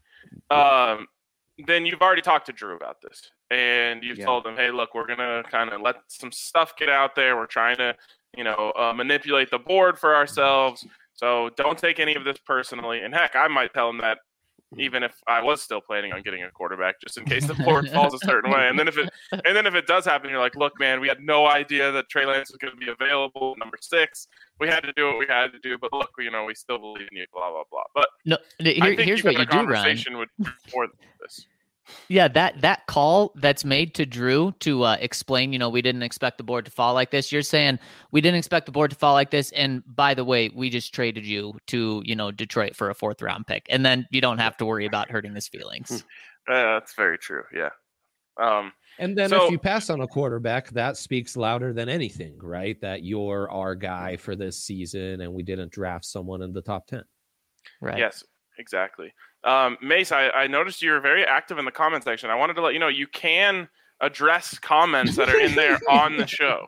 then you've already talked to Drew about this. And you've told him, hey, look, we're going to kind of let some stuff get out there. We're trying to, manipulate the board for ourselves. So don't take any of this personally. And heck, I might tell him that even if I was still planning on getting a quarterback, just in case the board falls a certain way. And then if it does happen, you're like, look, man, we had no idea that Trey Lance was going to be available, number 6. We had to do what we had to do, but look, we still believe in you, blah blah blah. But no, here's what you do, Ryan. Would be more than this. Yeah, that call that's made to Drew to explain, we didn't expect the board to fall like this. You're saying we didn't expect the board to fall like this, and by the way, we just traded you to, Detroit for a 4th round pick, and then you don't have to worry about hurting his feelings. That's very true. Yeah. And then if you pass on a quarterback, that speaks louder than anything, right? That you're our guy for this season, and we didn't draft someone in the top 10. Right. Yes, exactly. Mace, I noticed you're very active in the comment section. I wanted to let you know you can address comments that are in there on the show.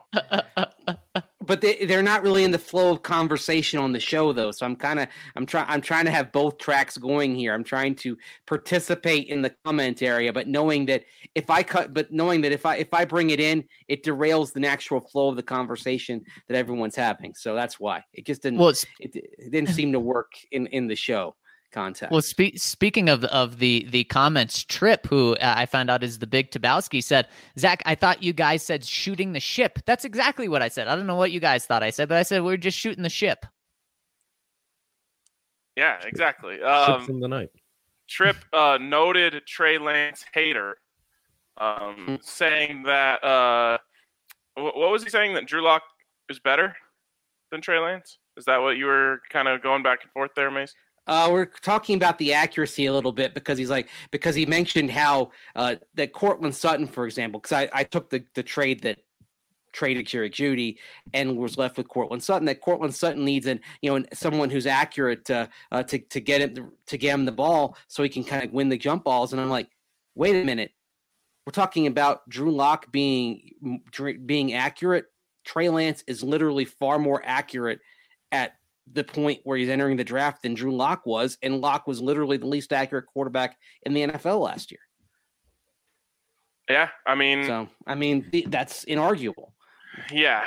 But they're not really in the flow of conversation on the show, though. So I'm trying to have both tracks going here. I'm trying to participate in the comment area, but knowing that if I bring it in, it derails the natural flow of the conversation that everyone's having. So that's why it just didn't. Well, it didn't seem to work in the show context. Well, speaking of the comments, Trip, who I found out is the Big Tabowski, said, Zach, I thought you guys said shooting the ship. That's exactly what I said. I don't know what you guys thought I said, but I said we're just shooting the ship. Yeah, exactly. Ship from the night. Trip, noted Trey Lance hater, saying that what was he saying, that Drew Lock is better than Trey Lance? Is that what you were kind of going back and forth there, Mace? We're talking about the accuracy a little bit because he mentioned how that Courtland Sutton, for example, because I took the trade that traded Jerry Jeudy and was left with Courtland Sutton. That Courtland Sutton needs someone who's accurate to get him the ball so he can kind of win the jump balls. And I'm like, wait a minute, we're talking about Drew Lock being accurate. Trey Lance is literally far more accurate at the point where he's entering the draft than Drew Lock was, and Lock was literally the least accurate quarterback in the NFL last year. Yeah, that's inarguable. Yeah,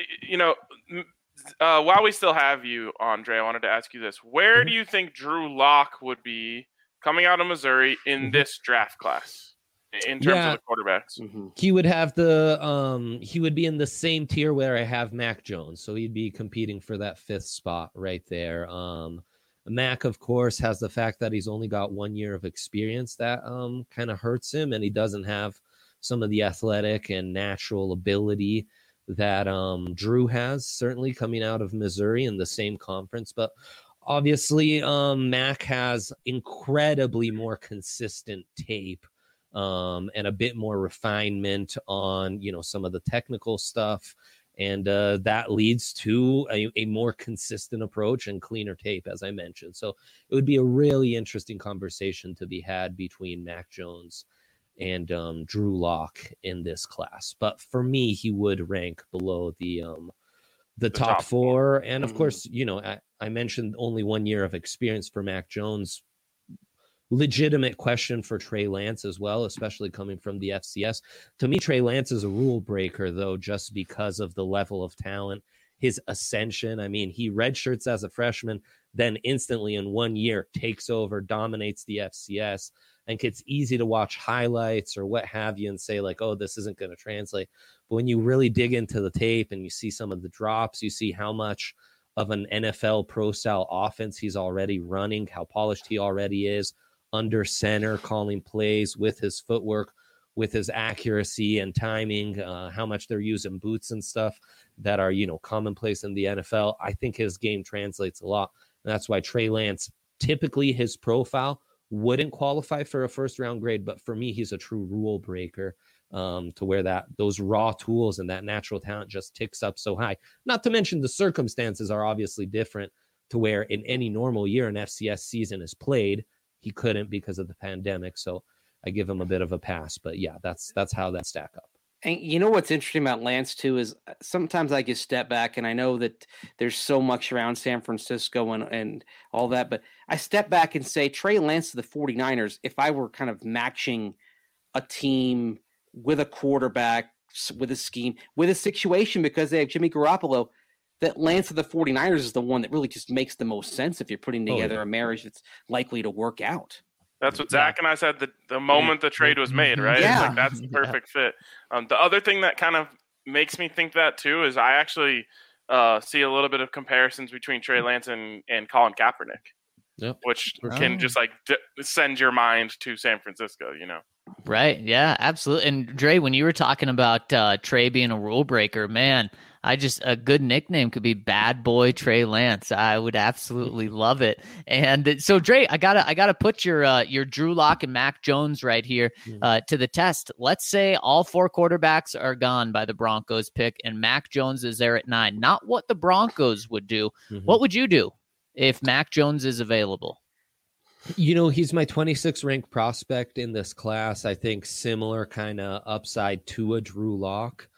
while we still have you, Andre, I wanted to ask you this: where do you think Drew Lock would be coming out of Missouri in this draft class? In terms of the quarterbacks, he would have he would be in the same tier where I have Mac Jones, so he'd be competing for that 5th spot right there. Mac, of course, has the fact that he's only got 1 year of experience that kind of hurts him, and he doesn't have some of the athletic and natural ability that Drew has, certainly coming out of Missouri in the same conference. But obviously, Mac has incredibly more consistent tape. And a bit more refinement on, some of the technical stuff. And that leads to a more consistent approach and cleaner tape, as I mentioned. So it would be a really interesting conversation to be had between Mac Jones and Drew Lock in this class. But for me, he would rank below the top 4. And of course, I mentioned only 1 year of experience for Mac Jones. Legitimate question for Trey Lance as well, especially coming from the FCS. To me, Trey Lance is a rule breaker, though, just because of the level of talent, his ascension. I mean, he redshirts as a freshman, then instantly in 1 year takes over, dominates the FCS. I think it's easy to watch highlights or what have you and say like, oh, this isn't going to translate. But when you really dig into the tape and you see some of the drops, you see how much of an NFL pro style offense he's already running, how polished he already is under center, calling plays with his footwork, with his accuracy and timing, how much they're using boots and stuff that are, commonplace in the NFL. I think his game translates a lot. And that's why Trey Lance, typically his profile wouldn't qualify for a first round grade. But for me, he's a true rule breaker, to where those raw tools and that natural talent just ticks up so high. Not to mention the circumstances are obviously different to where in any normal year an FCS season is played. He couldn't because of the pandemic. So I give him a bit of a pass. But yeah, that's how that stack up. And you know what's interesting about Lance too is sometimes I just step back, and I know that there's so much around San Francisco and all that, but I step back and say Trey Lance to the 49ers, if I were kind of matching a team with a quarterback, with a scheme, with a situation, because they have Jimmy Garoppolo, that Lance of the 49ers is the one that really just makes the most sense if you're putting together a marriage that's likely to work out. That's what Zach and I said the moment the trade was made, right? Yeah. It's like, that's the perfect fit. The other thing that kind of makes me think that too is I actually see a little bit of comparisons between Trey Lance and Colin Kaepernick, which can just like send your mind to San Francisco, Right. Yeah, absolutely. And Dre, when you were talking about Trey being a rule breaker, man, a good nickname could be Bad Boy Trey Lance. I would absolutely love it. And so, Dre, I gotta put your Drew Lock and Mac Jones right here to the test. Let's say all 4 quarterbacks are gone by the Broncos pick, and Mac Jones is there at 9. Not what the Broncos would do. What would you do if Mac Jones is available? He's my 26th ranked prospect in this class. I think similar kind of upside to a Drew Lock.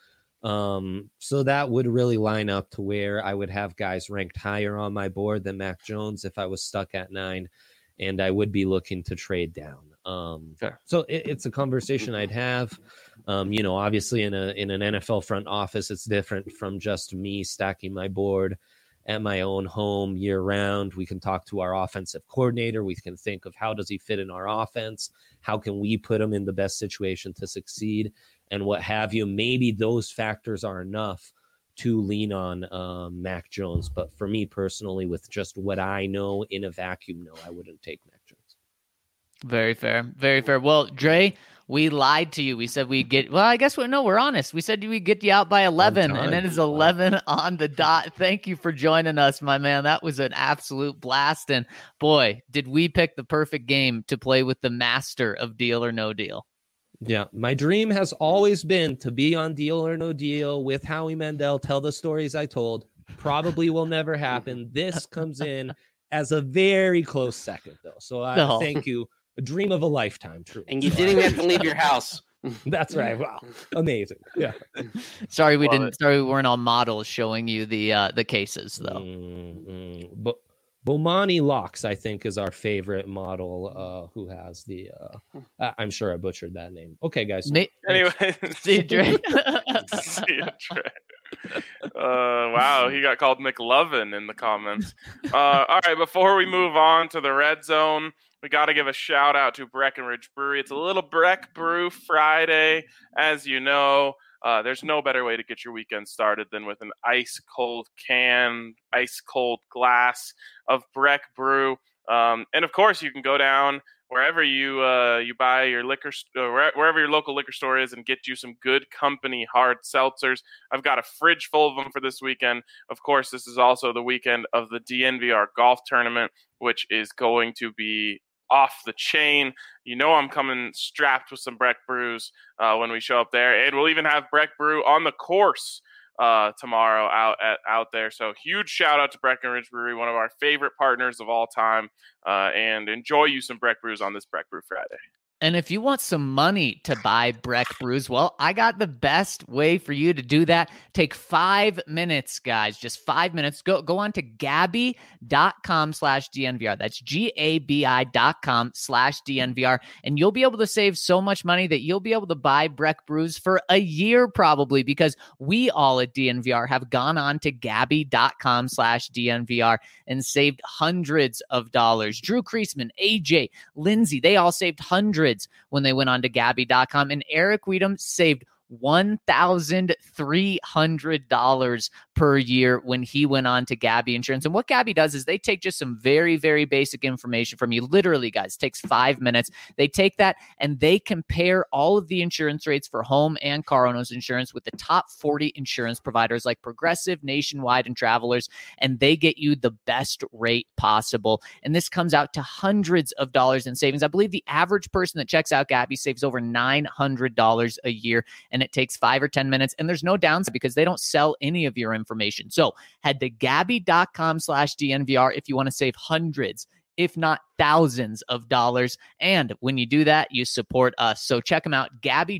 So that would really line up to where I would have guys ranked higher on my board than Mac Jones if I was stuck at 9, and I would be looking to trade down. So it's a conversation I'd have. Obviously in an NFL front office, it's different from just me stacking my board at my own home year round. We can talk to our offensive coordinator. We can think of how does he fit in our offense? How can we put him in the best situation to succeed and what have you? Maybe those factors are enough to lean on Mac Jones. But for me personally, with just what I know in a vacuum, no, I wouldn't take Mac Jones. Very fair. Very fair. Well, Dre, we lied to you. We said we're honest. We said we'd get you out by 11, and then it's 11 on the dot. Thank you for joining us, my man. That was an absolute blast. And boy, did we pick the perfect game to play with the master of Deal or No Deal. Yeah, my dream has always been to be on Deal or No Deal with Howie Mandel, tell the stories I told. Probably will never happen. This comes in as a very close second, though. So thank you. A dream of a lifetime, true. And you didn't even have to leave your house. That's right. Wow, amazing. Yeah. Sorry we weren't on models showing you the cases though. But Bomani Locks, I think, is our favorite model. Who has the? I'm sure I butchered that name. Okay, guys. Anyway, see you, Dre. See you, Dre. Wow, he got called McLovin in the comments. All right, before we move on to the red zone, we got to give a shout out to Breckenridge Brewery. It's a little Breck Brew Friday, as you know. There's no better way to get your weekend started than with an ice cold glass of Breck Brew. And of course, you can go down wherever you buy your liquor, wherever your local liquor store is, and get you some Good Company hard seltzers. I've got a fridge full of them for this weekend. Of course, this is also the weekend of the DNVR golf tournament, which is going to be off the chain. I'm coming strapped with some Breck Brews when we show up there, and we'll even have Breck Brew on the course tomorrow out there. So huge shout out to Breckenridge Brewery, one of our favorite partners of all time, and enjoy you some Breck Brews on this Breck Brew Friday. And if you want some money to buy Breck Brews, well, I got the best way for you to do that. Take 5 minutes, guys, just 5 minutes. Go on to Gabi.com/DNVR. That's GABI.com/DNVR. And you'll be able to save so much money that you'll be able to buy Breck Brews for a year probably, because we all at DNVR have gone on to Gabi.com/DNVR and saved hundreds of dollars. Drew Creasman, AJ, Lindsay, they all saved hundreds when they went on to Gabi.com, and Eric Weedham saved $1,300 per year when he went on to Gabi Insurance. And what Gabi does is they take just some very, very basic information from you. Literally, guys, takes 5 minutes. They take that and they compare all of the insurance rates for home and car owners insurance with the top 40 insurance providers like Progressive, Nationwide, and Travelers, and they get you the best rate possible. And this comes out to hundreds of dollars in savings. I believe the average person that checks out Gabi saves over $900 a year, and it takes 5 or 10 minutes, and there's no downside because they don't sell any of your information. So head to Gabi.com/DNVR if you want to save hundreds, if not thousands of dollars. And when you do that, you support us. So check them out, Gabi,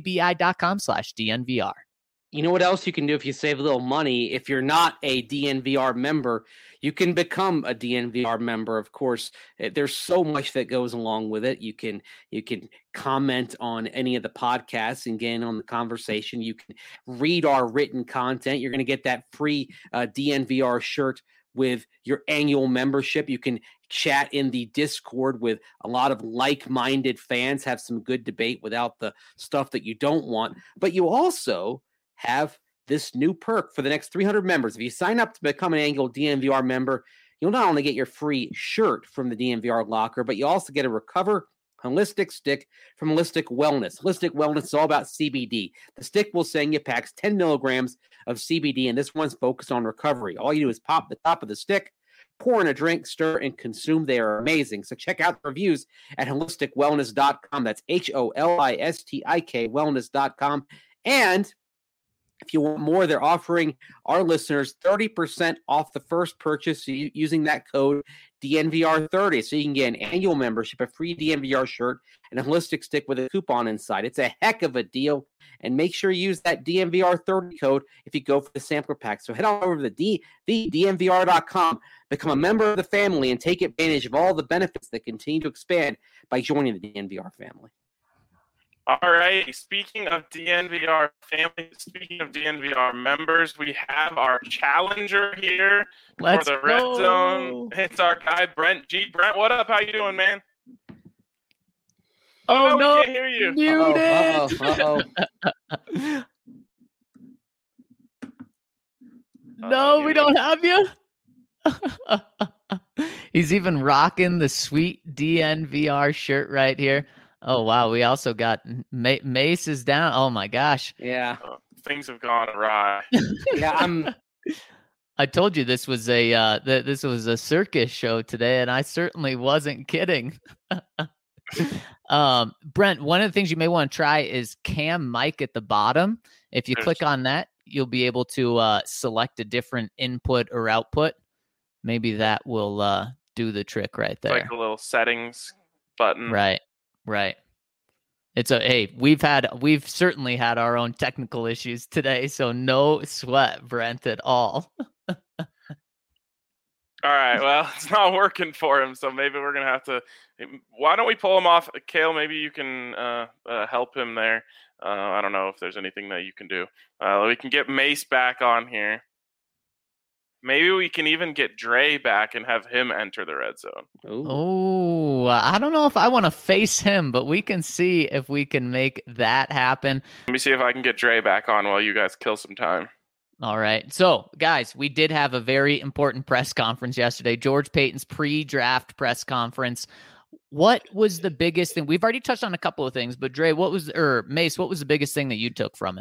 GABI.com/DNVR. You know what else you can do if you save a little money? If you're not a DNVR member, you can become a DNVR member. Of course, there's so much that goes along with it. You can comment on any of the podcasts and get in on the conversation. You can read our written content. You're going to get that free DNVR shirt with your annual membership. You can chat in the Discord with a lot of like-minded fans, have some good debate without the stuff that you don't want. But you also have this new perk for the next 300 members. If you sign up to become an annual DNVR member, you'll not only get your free shirt from the DNVR locker, but you also get a Recover Holistic Stick from Holistic Wellness. Holistic Wellness is all about CBD. The stick will send you packs 10 milligrams of CBD, and this one's focused on recovery. All you do is pop the top of the stick, pour in a drink, stir, and consume. They are amazing. So check out the reviews at holisticwellness.com. That's HOLISTIK wellness.com. And if you want more, they're offering our listeners 30% off the first purchase using that code DNVR30. So you can get an annual membership, a free DNVR shirt, and a holistic stick with a coupon inside. It's a heck of a deal. And make sure you use that DNVR30 code if you go for the sampler pack. So head on over to the DNVR.com, become a member of the family, and take advantage of all the benefits that continue to expand by joining the DNVR family. All right. Speaking of DNVR family, speaking of DNVR members, we have our challenger here for the Red Zone. It's our guy, Brent G. Brent, what up? How you doing, man? Oh, no. We can't hear you. No, we don't have you. He's even rocking the sweet DNVR shirt right here. Oh, wow. We also got Mace is down. Oh, my gosh. Yeah. Things have gone awry. Yeah, I told you this was a circus show today, and I certainly wasn't kidding. Brent, one of the things you may want to try is cam mic at the bottom. If you click on that, you'll be able to select a different input or output. Maybe that will do the trick right there. Like a little settings button. Right. We've certainly had our own technical issues today, so no sweat, Brent, at all. All right, well, it's not working for him, so maybe we're going to have to... Why don't we pull him off? Kale, maybe you can help him there. I don't know if there's anything that you can do. We can get Mace back on here. Maybe we can even get Dre back and have him enter the red zone. Oh, I don't know if I want to face him, but we can see if we can make that happen. Let me see if I can get Dre back on while you guys kill some time. All right. So, guys, we did have a very important press conference yesterday. George Paton's pre-draft press conference. What was the biggest thing? We've already touched on a couple of things, but Dre, Mace, what was the biggest thing that you took from it?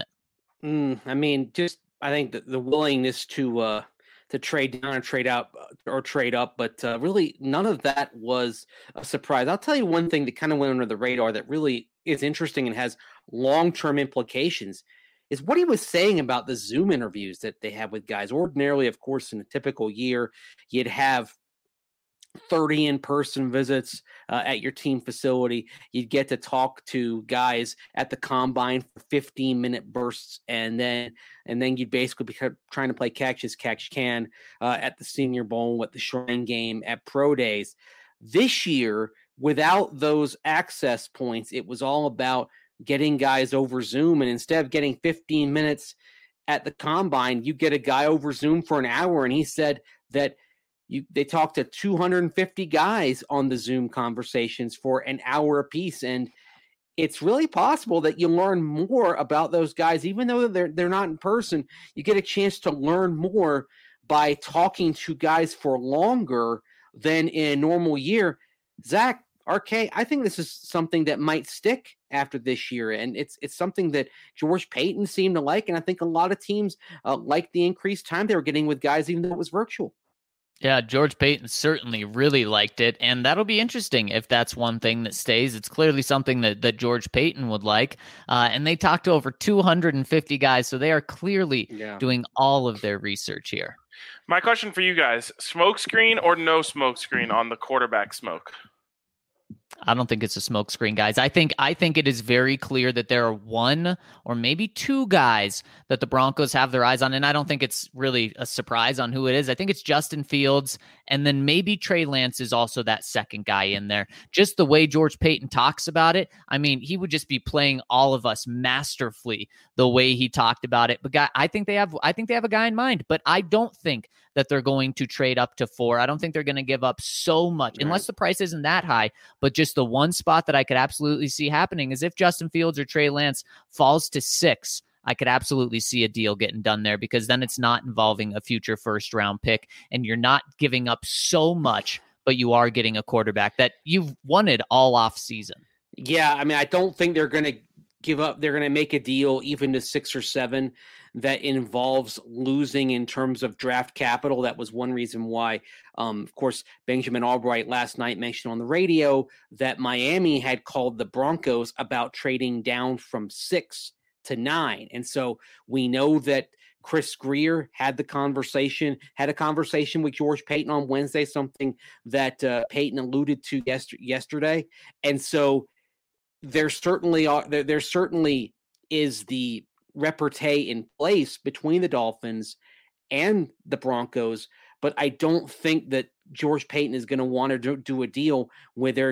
I think the willingness to trade down or trade out or trade up, but really none of that was a surprise. I'll tell you one thing that kind of went under the radar that really is interesting and has long-term implications is what he was saying about the Zoom interviews that they have with guys. Ordinarily, of course, in a typical year, you'd have 30 in-person visits at your team facility. You'd get to talk to guys at the combine for 15-minute bursts, and then you'd basically be trying to play catch as catch can at the Senior Bowl, at the Shrine Game, at Pro Days. This year, without those access points, it was all about getting guys over Zoom, and instead of getting 15 minutes at the combine, you get a guy over Zoom for an hour, and he said that they talked to 250 guys on the Zoom conversations for an hour apiece, and it's really possible that you learn more about those guys, even though they're not in person. You get a chance to learn more by talking to guys for longer than in a normal year. Zach, RK, I think this is something that might stick after this year, and it's something that George Paton seemed to like, and I think a lot of teams like the increased time they were getting with guys, even though it was virtual. Yeah, George Paton certainly really liked it, and that'll be interesting if that's one thing that stays. It's clearly something that George Paton would like, and they talked to over 250 guys, so they are clearly doing all of their research here. My question for you guys, smoke screen or no smoke screen on the quarterback smoke? I don't think it's a smoke screen, guys. I think it is very clear that there are one or maybe two guys that the Broncos have their eyes on, and I don't think it's really a surprise on who it is. I think it's Justin Fields, and then maybe Trey Lance is also that second guy in there. Just the way George Paton talks about it, I mean, he would just be playing all of us masterfully the way he talked about it. But I think they have a guy in mind, but I don't think that they're going to trade up to 4. I don't think they're going to give up so much, unless the price isn't that high. But just the one spot that I could absolutely see happening is if Justin Fields or Trey Lance falls to 6, I could absolutely see a deal getting done there, because then it's not involving a future first-round pick, and you're not giving up so much, but you are getting a quarterback that you've wanted all off season. Yeah, I mean, I don't think they're going to give up. They're going to make a deal even to 6 or 7 that involves losing in terms of draft capital. That was one reason why, of course, Benjamin Albright last night mentioned on the radio that Miami had called the Broncos about trading down from 6 to 9. And so we know that Chris Grier had a conversation with George Paton on Wednesday, something that Paton alluded to yesterday. And so there certainly is the repartee in place between the Dolphins and the Broncos, but I don't think that George Paton is going to want to do a deal where they're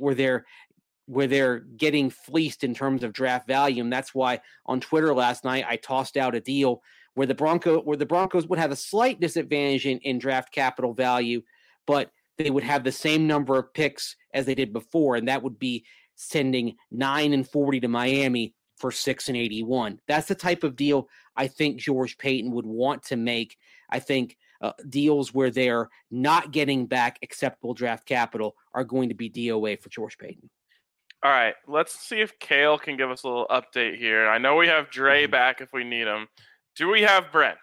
getting fleeced in terms of draft value. And that's why on Twitter last night I tossed out a deal where the Broncos would have a slight disadvantage in draft capital value, but they would have the same number of picks as they did before, and that would be sending 9 and 40 to Miami for 6 and 81. That's the type of deal I think George Paton would want to make. I think deals where they're not getting back acceptable draft capital are going to be DOA for George Paton. All right, let's see if Kale can give us a little update here. I know we have Dre back if we need him. Do we have Brent?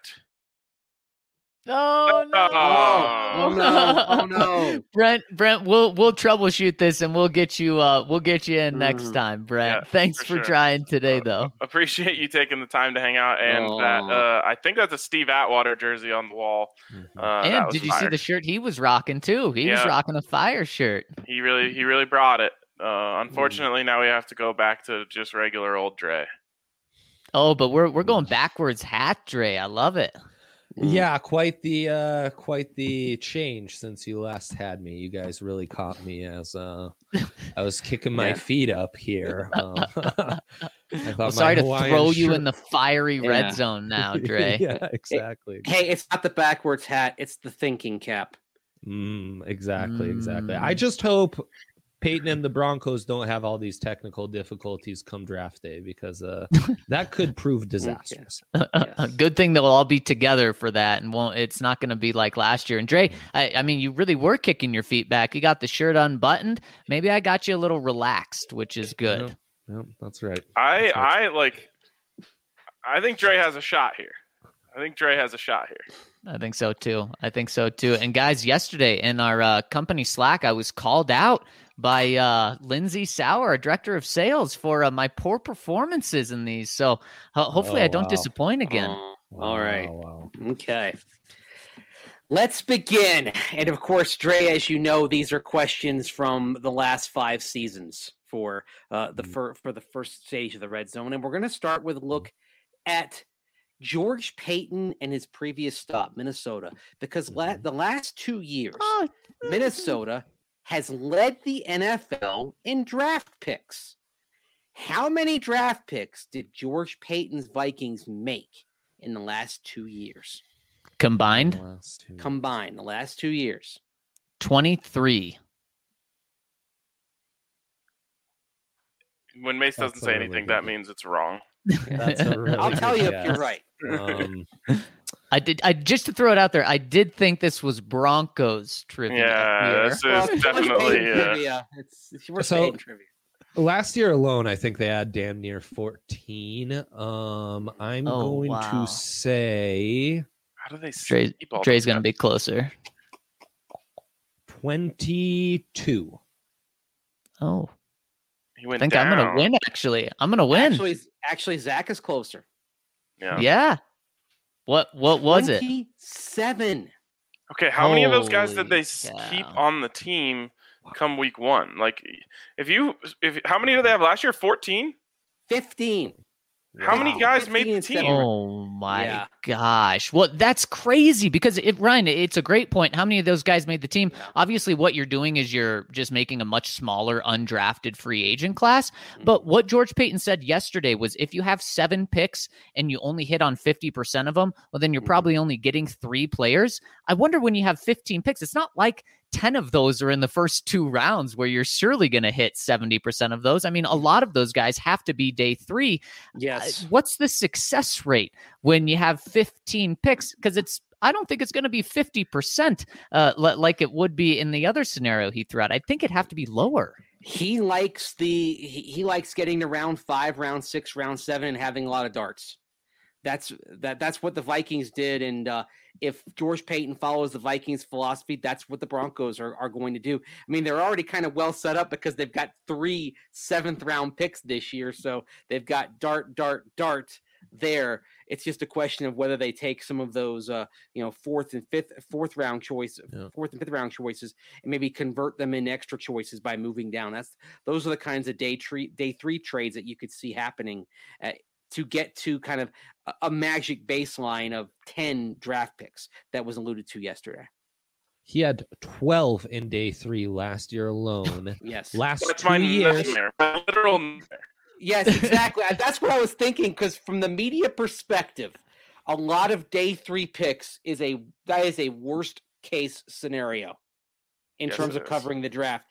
Oh no! Oh no! Brent, we'll troubleshoot this and we'll get you in next time, Brent. Yeah, Thanks for trying today, though. Appreciate you taking the time to hang out, and that I think that's a Steve Atwater jersey on the wall. And did you see the shirt he was rocking too? He was rocking a fire shirt. He really brought it. Unfortunately, now we have to go back to just regular old Dre. Oh, but we're going backwards hat, Dre. I love it. Yeah, quite the change since you last had me. You guys really caught me as I was kicking my feet up here. Sorry to throw you in the fiery red zone now, Dre. Yeah, exactly. Hey, it's not the backwards hat; it's the thinking cap. Exactly. I just hope Paton and the Broncos don't have all these technical difficulties come draft day, because that could prove disastrous. Good thing they'll all be together for that, and it's not going to be like last year. And Dre, I mean, you really were kicking your feet back. You got the shirt unbuttoned. Maybe I got you a little relaxed, which is good. Yeah, that's right. I think Dre has a shot here. I think so too. And guys, yesterday in our company Slack, I was called out by Lindsay Sauer, our director of sales, for my poor performances in these. So hopefully I don't disappoint again. All right. Wow. Okay. Let's begin. And of course, Dre, as you know, these are questions from the last 5 seasons for the first stage of the Red Zone. And we're going to start with a look at George Paton and his previous stop, Minnesota, because the last 2 years, Minnesota has led the NFL in draft picks. How many draft picks did George Paton's Vikings make in the last 2 years? Combined? Combined, the last 2 years. 23. When Mace doesn't say anything, that means it's wrong. That's a really I'll tell you if you're right. I just to throw it out there, I did think this was Broncos trivia. Yeah, this is definitely trivia. It's So- trivia. Last year alone, I think they had damn near 14. I'm going to say How do they Dre's keep all going this to be closer. 22. Oh, He I went think down. I'm going to win, actually. I'm going to win. Actually, Zach is closer. Yeah. What was it? 27. Okay, how many of those guys Holy did they keep on the team come week 1? Like, how many did they have last year? 14? 15. How many guys made 15 the and team? 7. Oh my Yeah. gosh. Well, that's crazy because Ryan, it's a great point. How many of those guys made the team? Yeah. Obviously, what you're doing is you're just making a much smaller undrafted free agent class. But what George Paton said yesterday was if you have 7 picks and you only hit on 50% of them, well, then you're probably only getting 3 players. I wonder when you have 15 picks, it's not like 10 of those are in the first 2 rounds where you're surely going to hit 70% of those. I mean, a lot of those guys have to be day 3. Yes. What's the success rate when you have 15 picks? Because I don't think it's going to be 50% like it would be in the other scenario he threw out. I think it'd have to be lower. He likes he likes getting to round 5, round 6, round 7, and having a lot of darts. That's what the Vikings did, and if George Paton follows the Vikings philosophy, that's what the Broncos are going to do. I mean, they're already kind of well set up because they've got 3 7th-round picks this year, so they've got dart there. It's just a question of whether they take some of those, 4th and 5th round choices, Yeah. 4th and 5th round choices, and maybe convert them into extra choices by moving down. Those are the kinds of day 3 trades that you could see happening to get to kind of a magic baseline of 10 draft picks that was alluded to yesterday. He had 12 in day 3 last year alone. Yes. Last That's 2 my years. nightmare. My literal nightmare. Yes, exactly. That's what I was thinking, because from the media perspective, a lot of day 3 picks is a worst case scenario in Yes, terms it of is. covering the draft.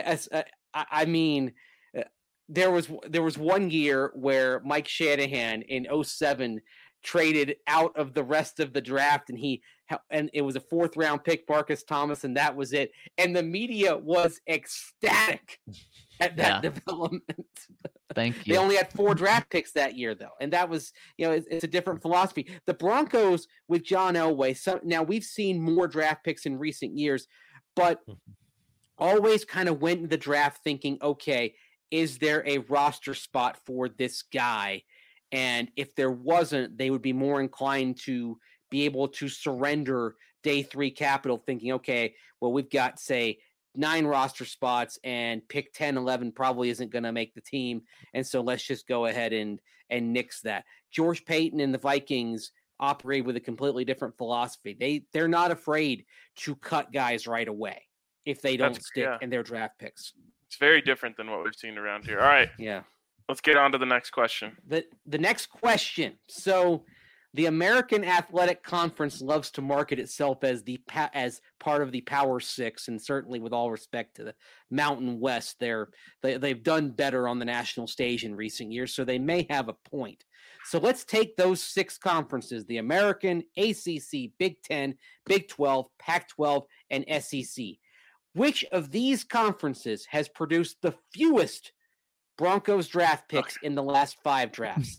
I mean, there was one year where Mike Shanahan in 2007 traded out of the rest of the draft, and it was a 4th round pick, Marcus Thomas, and that was it. And the media was ecstatic at that development. Thank you. They only had 4 draft picks that year, though, and that was, it's a different philosophy. The Broncos with John Elway. Now we've seen more draft picks in recent years, but always kind of went in the draft thinking, okay, is there a roster spot for this guy? And if there wasn't, they would be more inclined to be able to surrender day 3 capital, thinking, okay, well, we've got, say, 9 roster spots, and pick 10, 11 probably isn't going to make the team. And so let's just go ahead and nix that. George Paton and the Vikings operate with a completely different philosophy. They're not afraid to cut guys right away if they don't stick in their draft picks. It's very different than what we've seen around here. All right, Yeah. let's get on to the next question. The next question. So the American Athletic Conference loves to market itself as as part of the Power Six, and certainly with all respect to the Mountain West, they've done better on the national stage in recent years, so they may have a point. So let's take those 6 conferences: the American, ACC, Big 10, Big 12, Pac-12, and SEC. Which of these conferences has produced the fewest Broncos draft picks in the last 5 drafts?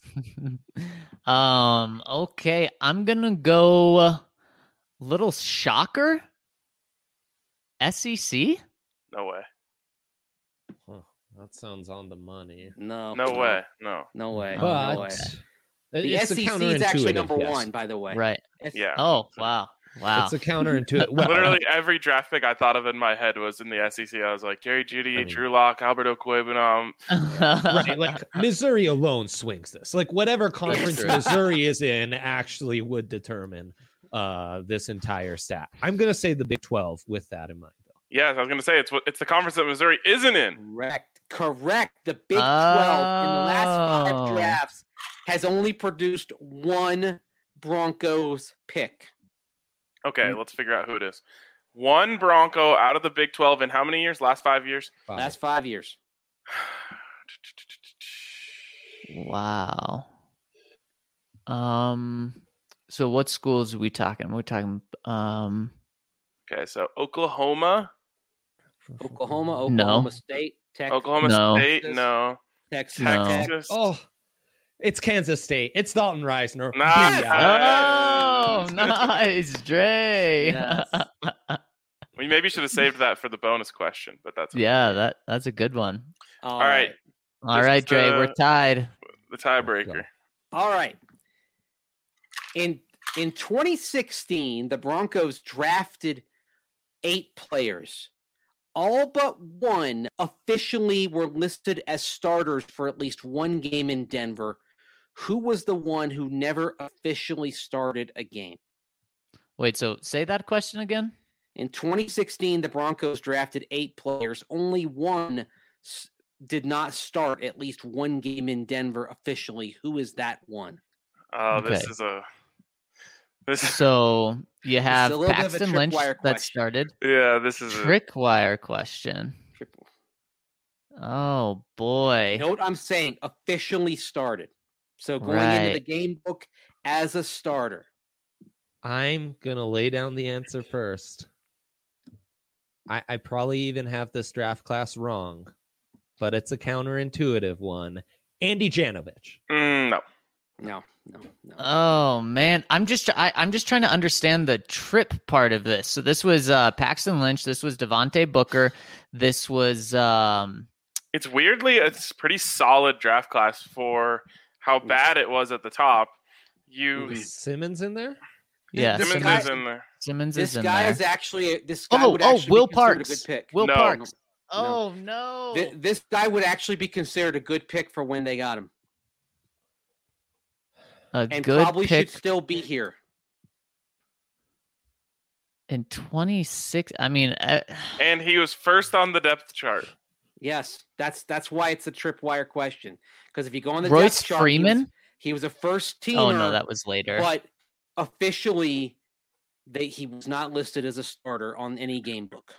Okay, I'm gonna go little shocker. SEC? No way. Huh, that sounds on the money. No way. No way. But no way. it's The SEC is actually number 1, by the way. Right. Yeah. Oh, wow. Wow. It's a counterintuitive. Well, Literally every draft pick I thought of in my head was in the SEC. I was like Jerry Jeudy, Drew Lock, Alberto Cuebanam. right, like Missouri alone swings this. Like whatever conference true. Missouri is in actually would determine this entire stat. I'm gonna say the Big 12 with that in mind, though. Yes, I was going to say it's the conference that Missouri isn't in. Correct. The Big 12 in the last 5 drafts has only produced one Broncos pick. Okay, let's figure out who it is. One Bronco out of the Big 12 in how many years? Last 5 years? Last 5 years. Wow. So what schools are we talking? We're talking Okay, so Oklahoma. Oklahoma State, Texas. Oklahoma State, no. Texas. Texas. Oh, it's Kansas State. It's Dalton Reisner. Nice. Oh, nice, Dre. Yes. We maybe should have saved that for the bonus question, but that's okay. Yeah, that's a good one. All right. All right, Dre, we're tied. The tiebreaker. All right. In 2016, the Broncos drafted 8 players. All but one officially were listed as starters for at least one game in Denver. Who was the one who never officially started a game? Wait, so say that question again? In 2016, the Broncos drafted 8 players. Only one did not start at least one game in Denver officially. Who is that one? Oh, Okay. So you have a little bit of a Paxton Lynch tripwire that question. started. Yeah, this is Trickwire question. Oh boy. Note I'm saying officially started. So going into the Right. game book as a starter. I'm gonna lay down the answer first. I probably even have this draft class wrong, but it's a counterintuitive one. Andy Janovich. No. No. Oh man, I'm just trying to understand the trip part of this. So this was Paxton Lynch. This was Devontae Booker. This was It's it's pretty solid draft class for how bad it was at the top. Is Simmons in there? yeah. Simmons guy- is in there. Simmons This is in guy there. is actually this guy Oh, would actually Will be considered Parks. a good pick. Will No. Parks. No. Oh no. This guy would actually be considered a good pick for when they got him. A And good probably pick should still be here. in 26. I mean, And he was first on the depth chart. Yes, that's why it's a tripwire question. Because if you go on the Royce depth chart, Freeman. he was a first teamer. Oh no, that was later. But officially, he was not listed as a starter on any game book.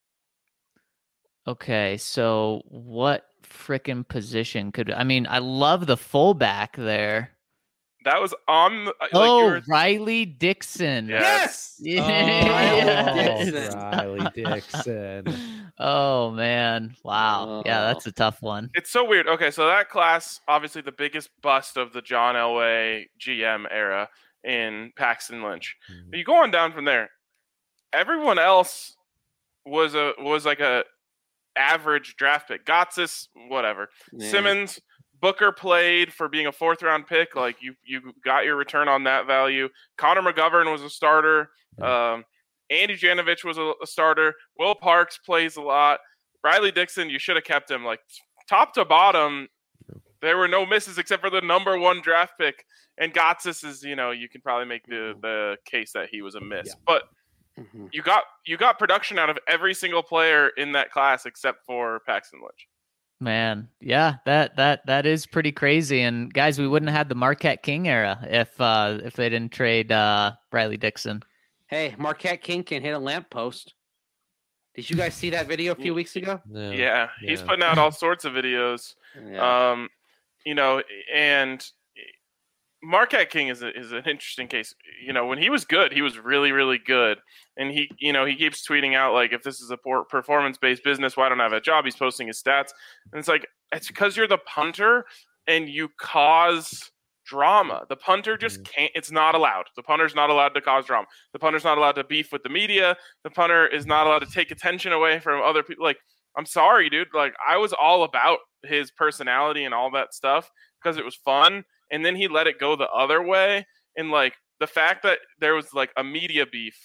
Okay, so what frickin' position could I mean? I love the fullback there. That was on. Riley Dixon. Yeah. Yes. Yes. Riley Dixon. Oh man, wow. Yeah, that's a tough one. It's so weird. Okay, so that class, obviously the biggest bust of the John Elway GM era in Paxton Lynch. But you go on down from there. Everyone else was like a average draft pick. Gotsis, whatever. Yeah. Simmons, Booker played for being a 4th round pick. Like you got your return on that value. Connor McGovern was a starter. Andy Janovich was a starter. Will Parks plays a lot. Riley Dixon, you should have kept him. Like top to bottom, there were no misses except for the number 1 draft pick. And Gotsis is, you can probably make the case that he was a miss. Yeah. But you got production out of every single player in that class except for Paxton Lynch. Man, yeah, that is pretty crazy. And guys, we wouldn't have had the Marquette King era if they didn't trade Riley Dixon. Hey, Marquette King can hit a lamppost. Did you guys see that video a few weeks ago? Yeah, he's putting out all sorts of videos. Yeah. And Marquette King is an interesting case. When he was good, he was really, really good. And he keeps tweeting out, like, if this is a performance-based business, why don't I have a job? He's posting his stats. And it's like, it's because you're the punter and you cause drama. The punter just can't. It's not allowed. The punter's not allowed to cause drama. The punter's not allowed to beef with the media. The punter is not allowed to take attention away from other people. Like, I'm sorry, dude. Like, I was all about his personality and all that stuff because it was fun. And then he let it go the other way. And like the fact that there was like a media beef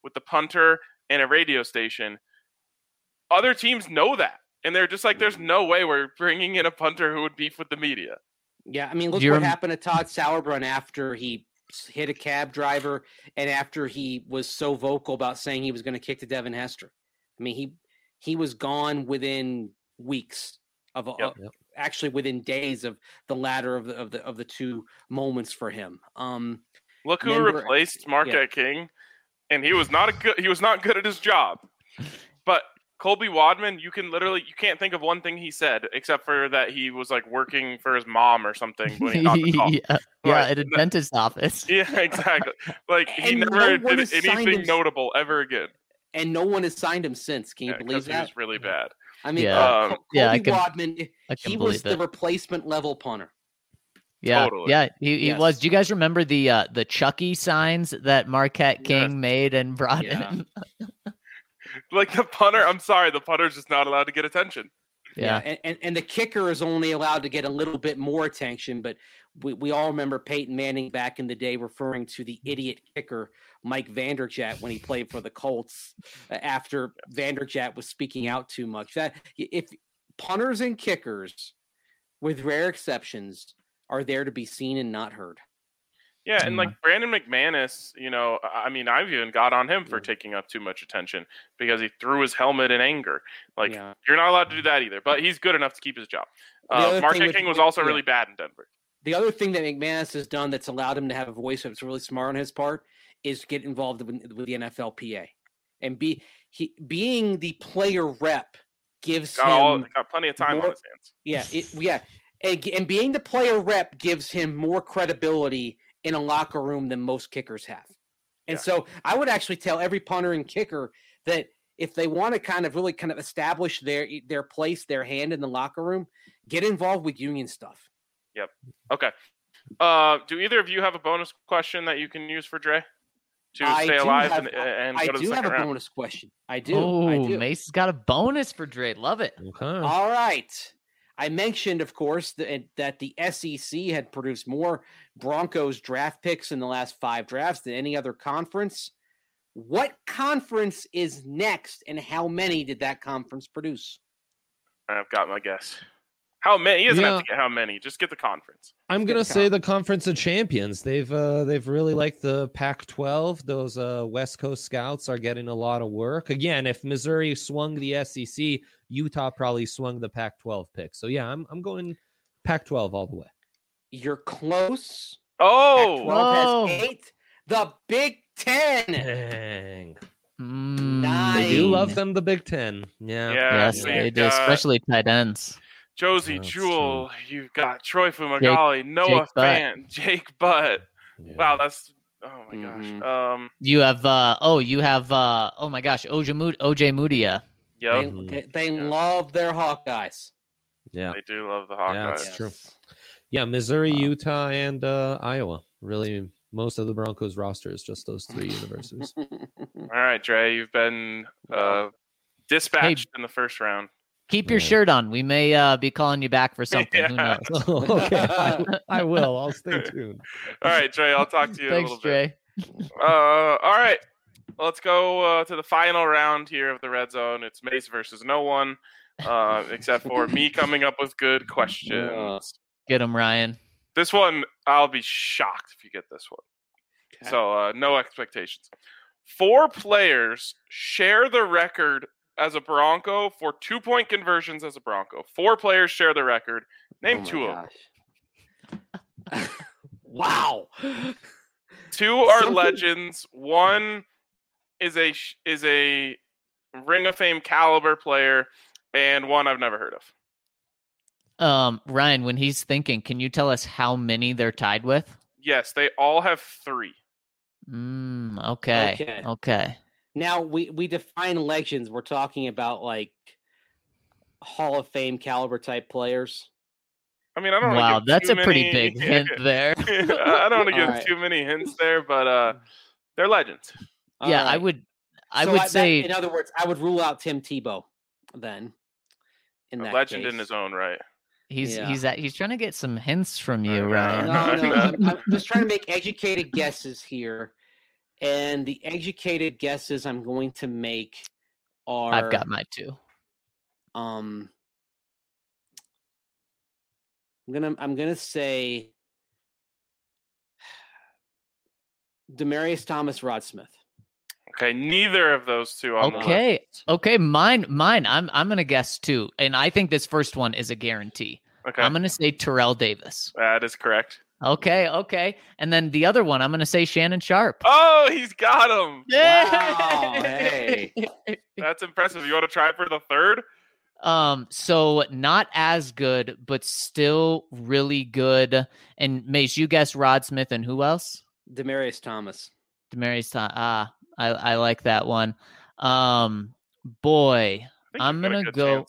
with the punter and a radio station. Other teams know that. And they're just like, there's no way we're bringing in a punter who would beef with the media. Yeah, I mean, look what happened to Todd Sauerbrunn after he hit a cab driver and after he was so vocal about saying he was going to kick to Devin Hester. I mean, he was gone within weeks of actually within days of the latter of the two moments for him. Look who replaced Marquette King, and he was not good at his job. But Colby Wadman, you can't think of one thing he said except for that he was like working for his mom or something when he got the call. At a dentist's office. Yeah, exactly. Like he never did anything notable ever again. And no one has signed him since. Can you believe that? He was really bad. I mean, Colby Wadman, he was the replacement level punter. Yeah, totally. Yeah, he was. Do you guys remember the Chucky signs that Marquette King made and brought in? Like the punter, I'm sorry, the punter's just not allowed to get attention. Yeah. And the kicker is only allowed to get a little bit more attention, but we all remember Peyton Manning back in the day referring to the idiot kicker Mike Vanderjagt when he played for the Colts after Vanderjagt was speaking out too much. That if punters and kickers, with rare exceptions, are there to be seen and not heard. Yeah, and like Brandon McManus, I mean, I've even got on him for taking up too much attention because he threw his helmet in anger. Like, you're not allowed to do that either, but he's good enough to keep his job. Marquette King was also really bad in Denver. The other thing that McManus has done that's allowed him to have a voice that's really smart on his part is get involved with the NFLPA. And being the player rep gives him... Got plenty of time on his hands. Yeah, and being the player rep gives him more credibility in a locker room than most kickers have. And so I would actually tell every punter and kicker that if they want to kind of establish their place, their hand in the locker room, get involved with union stuff. Yep. Okay. Do either of you have a bonus question that you can use for Dre to stay alive and go to the second round? I do have a bonus question. I do. Oh, Mason's got a bonus for Dre. Love it. Okay. All right. I mentioned, of course, that the SEC had produced more Broncos draft picks in the last 5 drafts than any other conference. What conference is next, and how many did that conference produce? I've got my guess. How many? He doesn't have to get how many. Just get the conference. I'm gonna say the Conference of Champions. They've really liked the Pac-12. Those West Coast scouts are getting a lot of work. Again, if Missouri swung the SEC, Utah probably swung the Pac-12 pick. So yeah, I'm going Pac-12 all the way. You're close. Oh, Pac-12 has 8. The Big Ten. Dang. 9. They do love them, the Big Ten. Yeah. Yes, they do, especially tight ends. Josie Jewell, you've got Troy Fumagalli, Noah Fant, Jake Butt. Yeah. Wow, that's my gosh. You have oh my gosh, OJ Mudia. Yep. They love their Hawkeyes. Yeah, they do love the Hawkeyes. Yeah, that's true. Yeah, Missouri, Utah, and Iowa. Really, most of the Broncos roster is just those 3 universities. All right, Dre, you've been dispatched in the first round. Keep your shirt on. We may be calling you back for something. Who knows? Okay, I will. I'll stay tuned. All right, Dre, I'll talk to you Thanks, in a little Dre. bit. All right, let's go to the final round here of the Red Zone. It's Mace versus no one, except for me coming up with good questions. Get him, Ryan. This one, I'll be shocked if you get this one. Okay. So, no expectations. 4 players share the record as a Bronco for 2-point conversions as a Bronco. 4 players share the record. Name 2 of them. Wow. 2 are legends. 1 is a Ring of Fame caliber player, and 1 I've never heard of. Ryan, when he's thinking, can you tell us how many they're tied with? Yes, they all have 3. Okay. Now we define legends. We're talking about like Hall of Fame caliber type players. I mean, I don't. Wow, that's a pretty many... big hint there. I don't want to give too many hints there, but they're legends. Yeah, right. I would say. In other words, I would rule out Tim Tebow. Then, in that legend case. in his own right. He's trying to get some hints from you, Ryan. No, I'm just trying to make educated guesses here. And the educated guesses I'm going to make are I've got mine too. I'm gonna say Demaryius Thomas, Rod Smith. Okay, neither of those two on the list. Okay, mine. I'm gonna guess too, and I think this first one is a guarantee. Okay, I'm gonna say Terrell Davis. that is correct. Okay, and then the other one, I'm gonna say Shannon Sharp. Oh, he's got him. Wow, hey. That's impressive. You want to try for the third? So not as good, but still really good. And Mace, you guessed Rod Smith, and who else? Demaryius Thomas. Demaryius Thomas. I like that one. Boy, I'm gonna go.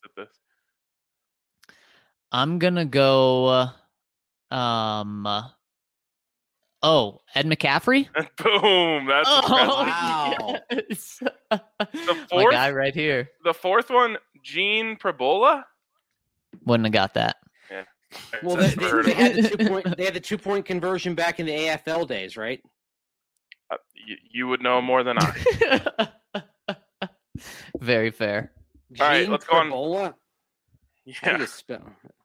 I'm gonna go. Oh, Ed McCaffrey. Boom! That's wow. Yes. The fourth, my guy right here. The fourth one, Gene Perbola. Wouldn't have got that. Yeah. Well, they had the 2-point conversion back in the AFL days, right? You would know more than I. Very fair. All right, let's go on. Perbola? How do Yeah. you spell?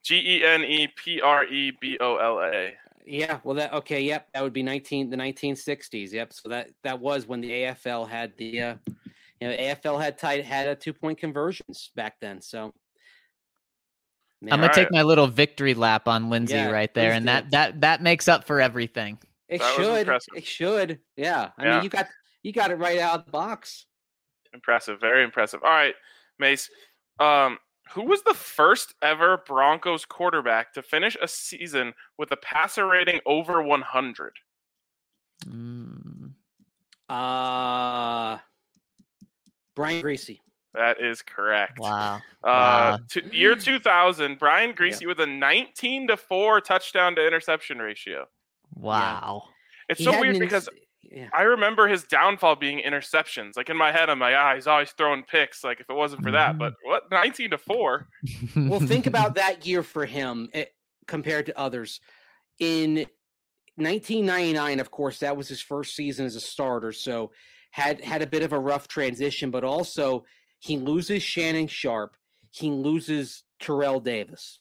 GENEPREBOLA. Yeah, well, that would be the 1960s. Yep, so that was when the AFL had the AFL had 2-point conversions back then. So I'm gonna take my little victory lap on Lindsay right there, and that makes up for everything. It should. Yeah, I mean, you got it right out of the box. Impressive, very impressive. All right, Mace. Who was the first ever Broncos quarterback to finish a season with a passer rating over 100? Brian Griese. That is correct. Wow. Year 2000, Brian Griese with a 19-4 touchdown to interception ratio. Wow. Yeah. It's so weird because I remember his downfall being interceptions. Like in my head, I'm like, he's always throwing picks. Like if it wasn't for that, but what 19-4? Well, think about that year for him compared to others. In 1999, of course, that was his first season as a starter, so had a bit of a rough transition. But also, he loses Shannon Sharp, he loses Terrell Davis.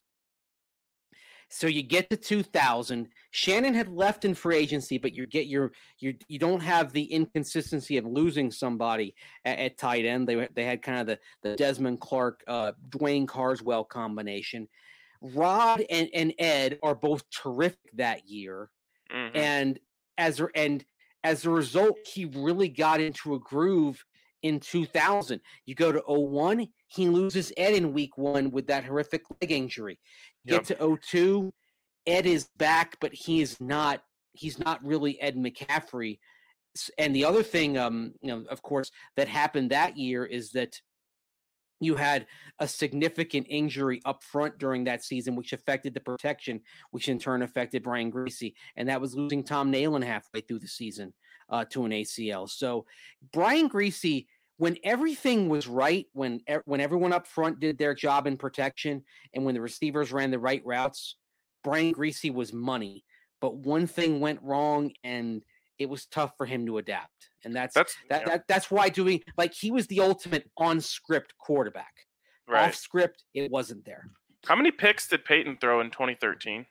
So you get to 2000. Shannon had left in free agency, but you don't have the inconsistency of losing somebody at tight end. They had kind of the Desmond Clark, Dwayne Carswell combination. Rod and Ed are both terrific that year, and as a result, he really got into a groove in 2000. You go to 01, he loses Ed in week 1 with that horrific leg injury. Get to 02, Ed is back, but he's not really Ed McCaffrey. And the other thing, of course, that happened that year is that you had a significant injury up front during that season, which affected the protection, which in turn affected Brian Griese, and that was losing Tom Nalen halfway through the season to an ACL. So Brian Griese, when everything was right, when everyone up front did their job in protection, and when the receivers ran the right routes, Brian Griese was money. But one thing went wrong, and it was tough for him to adapt. And that's why he was the ultimate on-script quarterback. Right. Off script, it wasn't there. How many picks did Peyton throw in 2013?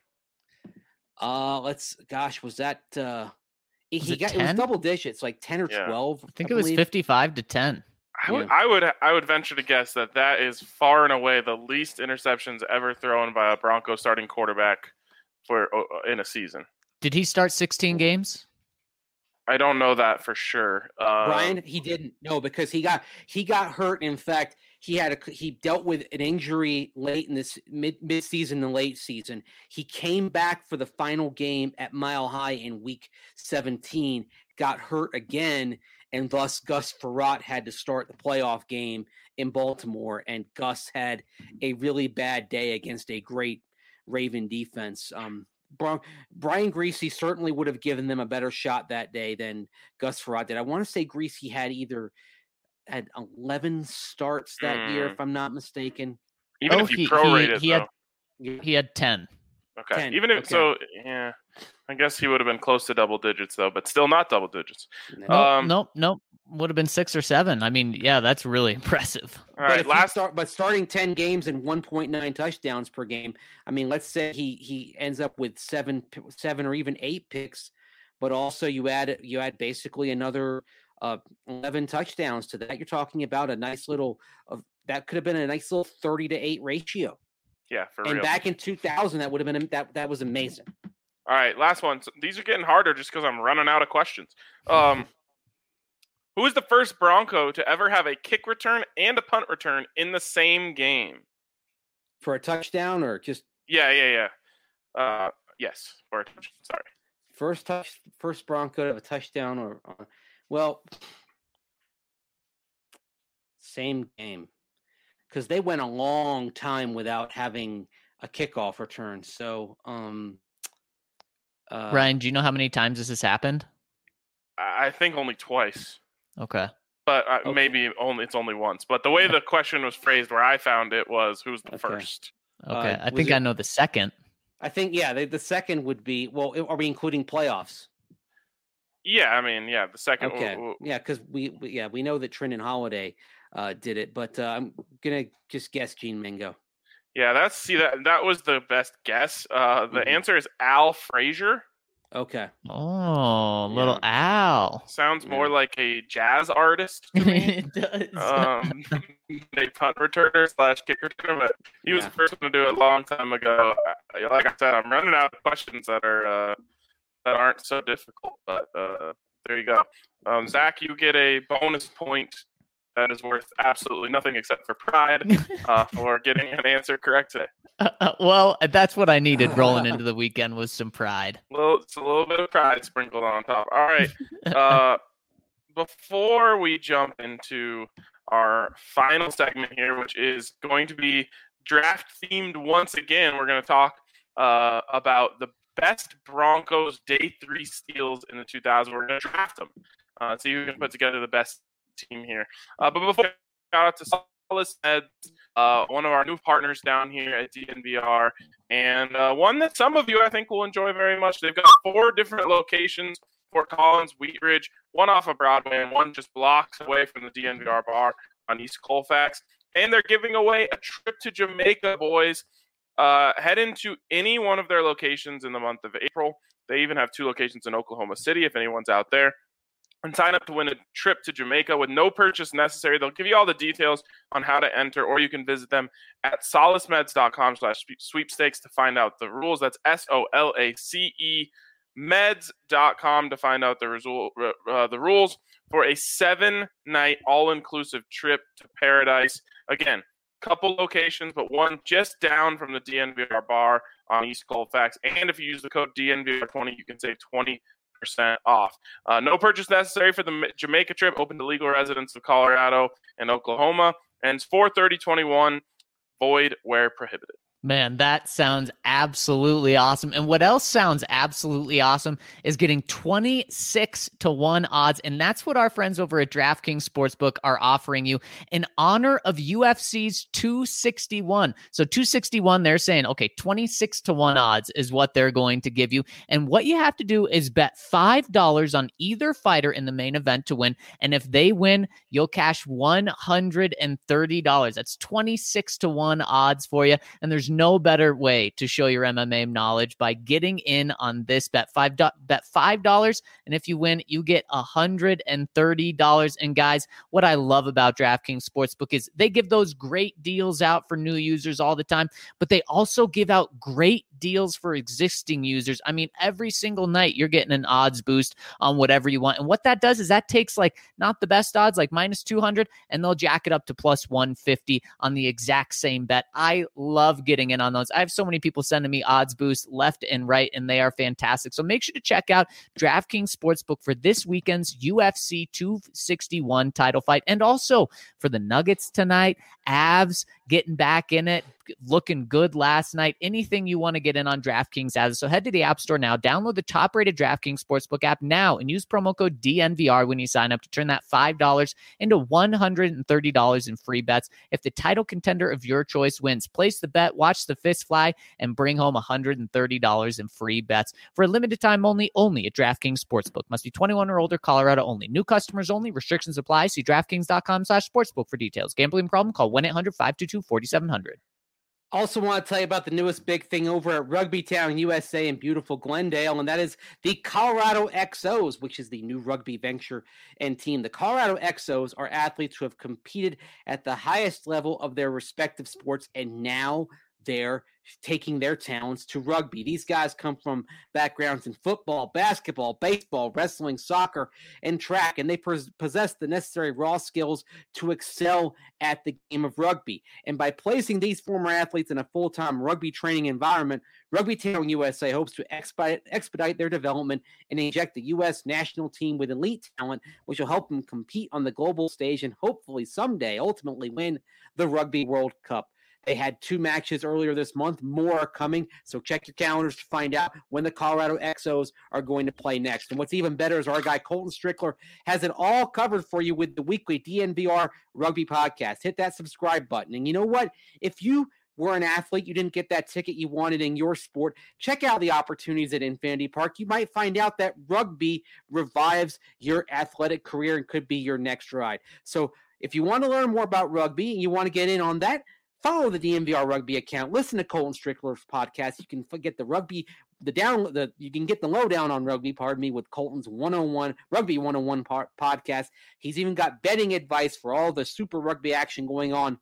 Was that it was double digits, like 10 or 12. I think it was 55-10. I would venture to guess that is far and away the least interceptions ever thrown by a Broncos starting quarterback in a season. Did he start 16 games? I don't know that for sure. Brian, he didn't. No, because he got hurt. In fact, he dealt with an injury late in this mid-season and late season. He came back for the final game at Mile High in week 17, got hurt again, and thus Gus Frerotte had to start the playoff game in Baltimore, and Gus had a really bad day against a great Raven defense. Brian Griese certainly would have given them a better shot that day than Gus Frerotte did. I want to say Griese had 11 starts that year, if I'm not mistaken. Even if you prorate it, he had 10. Okay. 10. Even if Okay. so, yeah. I guess he would have been close to double digits though, but still not double digits. Nope. Would have been 6 or 7. I mean, yeah, that's really impressive. All right, but starting 10 games and 1.9 touchdowns per game. I mean, let's say he ends up with seven or even 8 picks, but also you add basically another 11 touchdowns to that. You're talking about a nice little that could have been a nice little 30-8 ratio. Yeah, for real. And back in 2000, that would have been that was amazing. All right, last one. So these are getting harder just because I'm running out of questions. Who is the first Bronco to ever have a kick return and a punt return in the same game? For a touchdown or just? Yeah. Yes, for a touchdown. Sorry. First Bronco to have a touchdown or same game. Because they went a long time without having a kickoff return. So, Ryan, do you know how many times this has happened? I think only twice. Okay. But maybe it's only once. But the way the question was phrased, where I found it, was who's the first? Okay, I think I know the second. I think the second would be. Well, are we including playoffs? Yeah, I mean, the second. Okay, because we know that Trenton Holiday did it, but I'm gonna just guess Gene Mingo. Yeah, that was the best guess. The answer is Al Frazier. Okay. Oh, little Al. Sounds more like a jazz artist to me. It does. A punt returner / kick returner, but he was the first one to do it a long time ago. Like I said, I'm running out of questions that aren't so difficult. But there you go. Zach, you get a bonus point that is worth absolutely nothing except for pride for getting an answer correct today. Well, that's what I needed rolling into the weekend was some pride. It's a little bit of pride sprinkled on top. All right. Before we jump into our final segment here, which is going to be draft themed once again, we're going to talk about the best Broncos day 3 steals in the 2000s. We're going to draft them. See who can put together the best team here. But before, shout out to Solace Meds, one of our new partners down here at DNVR, and one that some of you I think will enjoy very much. They've got 4 different locations: Fort Collins, Wheat Ridge, one off of Broadway, and one just blocks away from the DNVR bar on East Colfax. And they're giving away a trip to Jamaica, boys. Head into any one of their locations in the month of April. They even have 2 locations in Oklahoma City if anyone's out there. And sign up to win a trip to Jamaica with no purchase necessary. They'll give you all the details on how to enter, or you can visit them at solacemeds.com/sweepstakes to find out the rules. That's SOLACE meds.com to find out the rules for a 7-night all-inclusive trip to paradise. Again, couple locations, but one just down from the DNVR bar on East Colfax. And if you use the code DNVR20, you can save 20% off. No purchase necessary for the Jamaica trip, open to legal residents of Colorado and Oklahoma, and it's 4/30/21, void where prohibited. Man, that sounds absolutely awesome. And what else sounds absolutely awesome is getting 26-1 odds. And that's what our friends over at DraftKings Sportsbook are offering you in honor of UFC's 261. So 261, they're saying, okay, 26-1 odds is what they're going to give you. And what you have to do is bet $5 on either fighter in the main event to win. And if they win, you'll cash $130. That's 26-1 odds for you. And there's no better way to show your MMA knowledge by getting in on this bet. Bet $5, and if you win, you get $130. And guys, what I love about DraftKings Sportsbook is they give those great deals out for new users all the time, but they also give out great deals for existing users. I mean, every single night you're getting an odds boost on whatever you want. And what that does is that takes like not the best odds, like minus 200, and they'll jack it up to plus 150 on the exact same bet. I love getting in on those. I have so many people sending me odds boosts left and right, and they are fantastic. So make sure to check out DraftKings Sportsbook for this weekend's UFC 261 title fight, and also for the Nuggets tonight, Avs getting back in it, looking good last night. Anything you want to get in on DraftKings as. So head to the App Store now, download the top-rated DraftKings Sportsbook app now, and use promo code DNVR when you sign up to turn that $5 into $130 in free bets. If the title contender of your choice wins, place the bet, watch the fist fly, and bring home $130 in free bets. For a limited time only at DraftKings Sportsbook. Must be 21 or older, Colorado only. New customers only. Restrictions apply. See DraftKings.com/sportsbook for details. Gambling problem? Call 1-800-522-4700. Also want to tell you about the newest big thing over at Rugby Town USA in beautiful Glendale, and that is the Colorado XOs, which is the new rugby venture and team. The Colorado XOs are athletes who have competed at the highest level of their respective sports, and now they're taking their talents to rugby. These guys come from backgrounds in football, basketball, baseball, wrestling, soccer, and track, and they possess the necessary raw skills to excel at the game of rugby. And by placing these former athletes in a full-time rugby training environment, Rugby Town USA hopes to expedite their development and inject the U.S. national team with elite talent, which will help them compete on the global stage and hopefully someday ultimately win the Rugby World Cup. They had 2 matches earlier this month. More are coming, so check your calendars to find out when the Colorado XOs are going to play next. And what's even better is our guy Colton Strickler has it all covered for you with the weekly DNVR Rugby Podcast. Hit that subscribe button. And you know what? If you were an athlete, you didn't get that ticket you wanted in your sport, check out the opportunities at Infinity Park. You might find out that rugby revives your athletic career and could be your next ride. So if you want to learn more about rugby and you want to get in on that, follow the DNVR Rugby account. Listen to Colton Strickler's podcast. You can get the rugby, you can get the lowdown on rugby, with Colton's Rugby 101 podcast. He's even got betting advice for all the super rugby action going on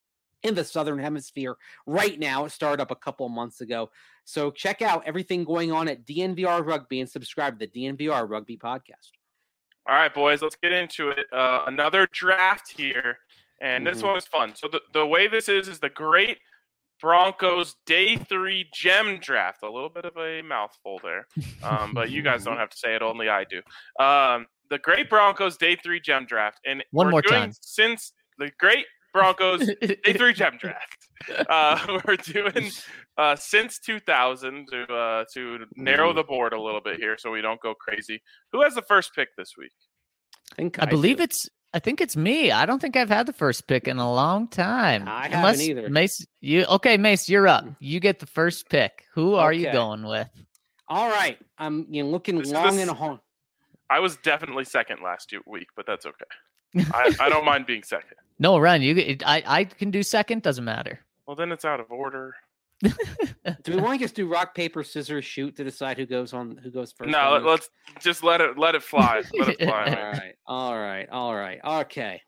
in the Southern Hemisphere right now. It started up a couple of months ago. So check out everything going on at DNVR Rugby and subscribe to the DNVR Rugby podcast. All right, boys, let's get into it. Another draft here. And this one was fun. So the way this is the Great Broncos Day 3 Gem Draft. A little bit of a mouthful there, but you guys don't have to say it. Only I do. The Great Broncos Day 3 Gem Draft. And one more time. Since the Great Broncos Day 3 Gem Draft. We're doing since 2000 to narrow the board a little bit here so we don't go crazy. Who has the first pick this week? I believe I think it's me. I don't think I've had the first pick in a long time. I haven't either. Mace, Mace, you're up. You get the first pick. Who are you going with? All right. I'm looking long and hard. I was definitely second last week, but that's okay. I don't mind being second. No, Ren, I can do second. Doesn't matter. Well, then it's out of order. Do we want to just do rock, paper, scissors, shoot to decide who goes first? No, let's just let it fly. Let it fly. All right. Okay.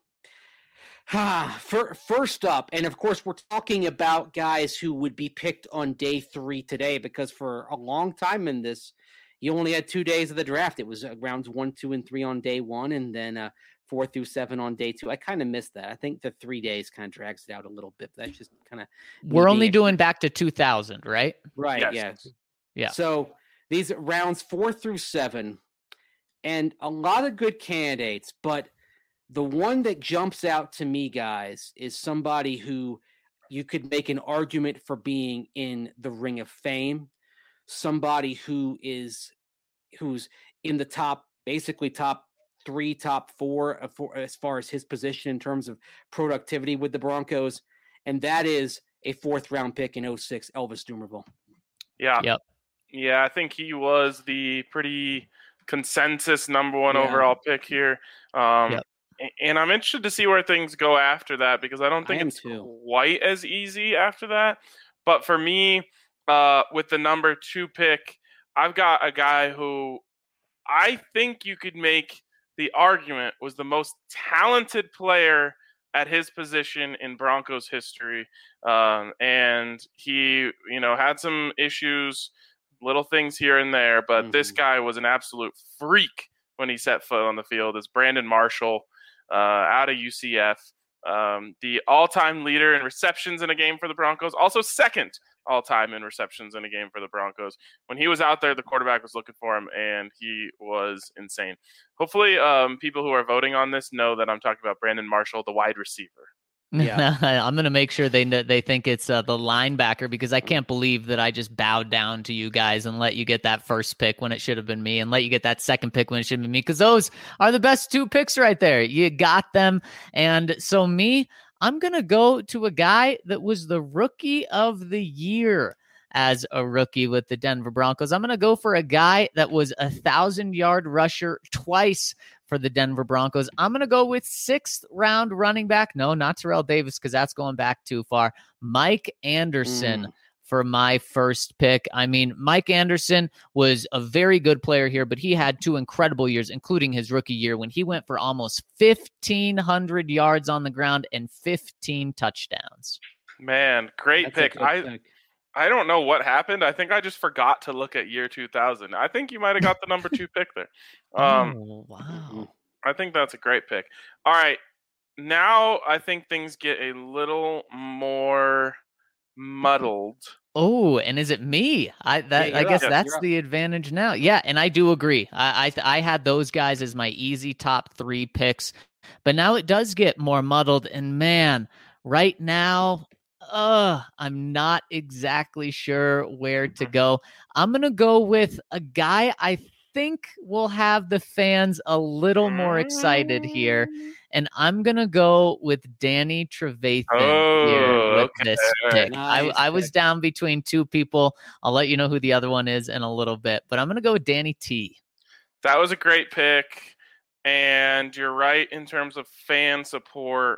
First up, and of course we're talking about guys who would be picked on day 3 today, because for a long time in this, you only had 2 days of the draft. It was rounds 1, 2, and 3 on day 1, and then 4 through 7 on day 2. I kind of missed that. I think the 3 days kind of drags it out a little bit, but that's just kind of. We're only doing back to 2000, right? Right. Yes. Yeah. So these rounds 4 through 7, and a lot of good candidates, but the one that jumps out to me, guys, is somebody who you could make an argument for being in the Ring of Fame. Somebody who's in the top 3, top 4 as far as his position in terms of productivity with the Broncos, and that is a 4th round pick in 2006, Elvis Dumervil. Yeah. Yep. Yeah, I think he was the pretty consensus number 1 overall pick here. Yep. And I'm interested to see where things go after that, because I don't think it's quite as easy after that. But for me, with the number 2 pick, I've got a guy who I think you could make the argument was the most talented player at his position in Broncos history. And he, had some issues, little things here and there, but this guy was an absolute freak when he set foot on the field. Is Brandon Marshall out of UCF, the all-time leader in receptions in a game for the Broncos, also second all-time in receptions in a game for the Broncos. When he was out there, the quarterback was looking for him, and he was insane. Hopefully, people who are voting on this know that I'm talking about Brandon Marshall, the wide receiver. Yeah. I'm going to make sure they think it's the linebacker, because I can't believe that I just bowed down to you guys and let you get that first pick when it should have been me, and let you get that second pick when it should have been me, because those are the best two picks right there. You got them. And so I'm going to go to a guy that was the rookie of the year as a rookie with the Denver Broncos. I'm going to go for a guy that was 1,000-yard rusher twice for the Denver Broncos. I'm going to go with 6th round running back. No, not Terrell Davis, because that's going back too far. Mike Anderson for my first pick. I mean, Mike Anderson was a very good player here, but he had 2 incredible years, including his rookie year when he went for almost 1,500 yards on the ground and 15 touchdowns. Man, great pick. I don't know what happened. I think I just forgot to look at year 2000. I think you might have got the number 2 pick there. Oh, wow. I think that's a great pick. All right. Now I think things get a little more muddled. Oh, and is it me? I guess that's the advantage now. Yeah, and I do agree. I had those guys as my easy top 3 picks, but now it does get more muddled. And man, right now, I'm not exactly sure where to go. I'm going to go with a guy I think will have the fans a little more excited here. And I'm going to go with Danny Trevathan here with this pick. Nice I was down between 2 people. I'll let you know who the other one is in a little bit, but I'm going to go with Danny T. That was a great pick. And you're right in terms of fan support.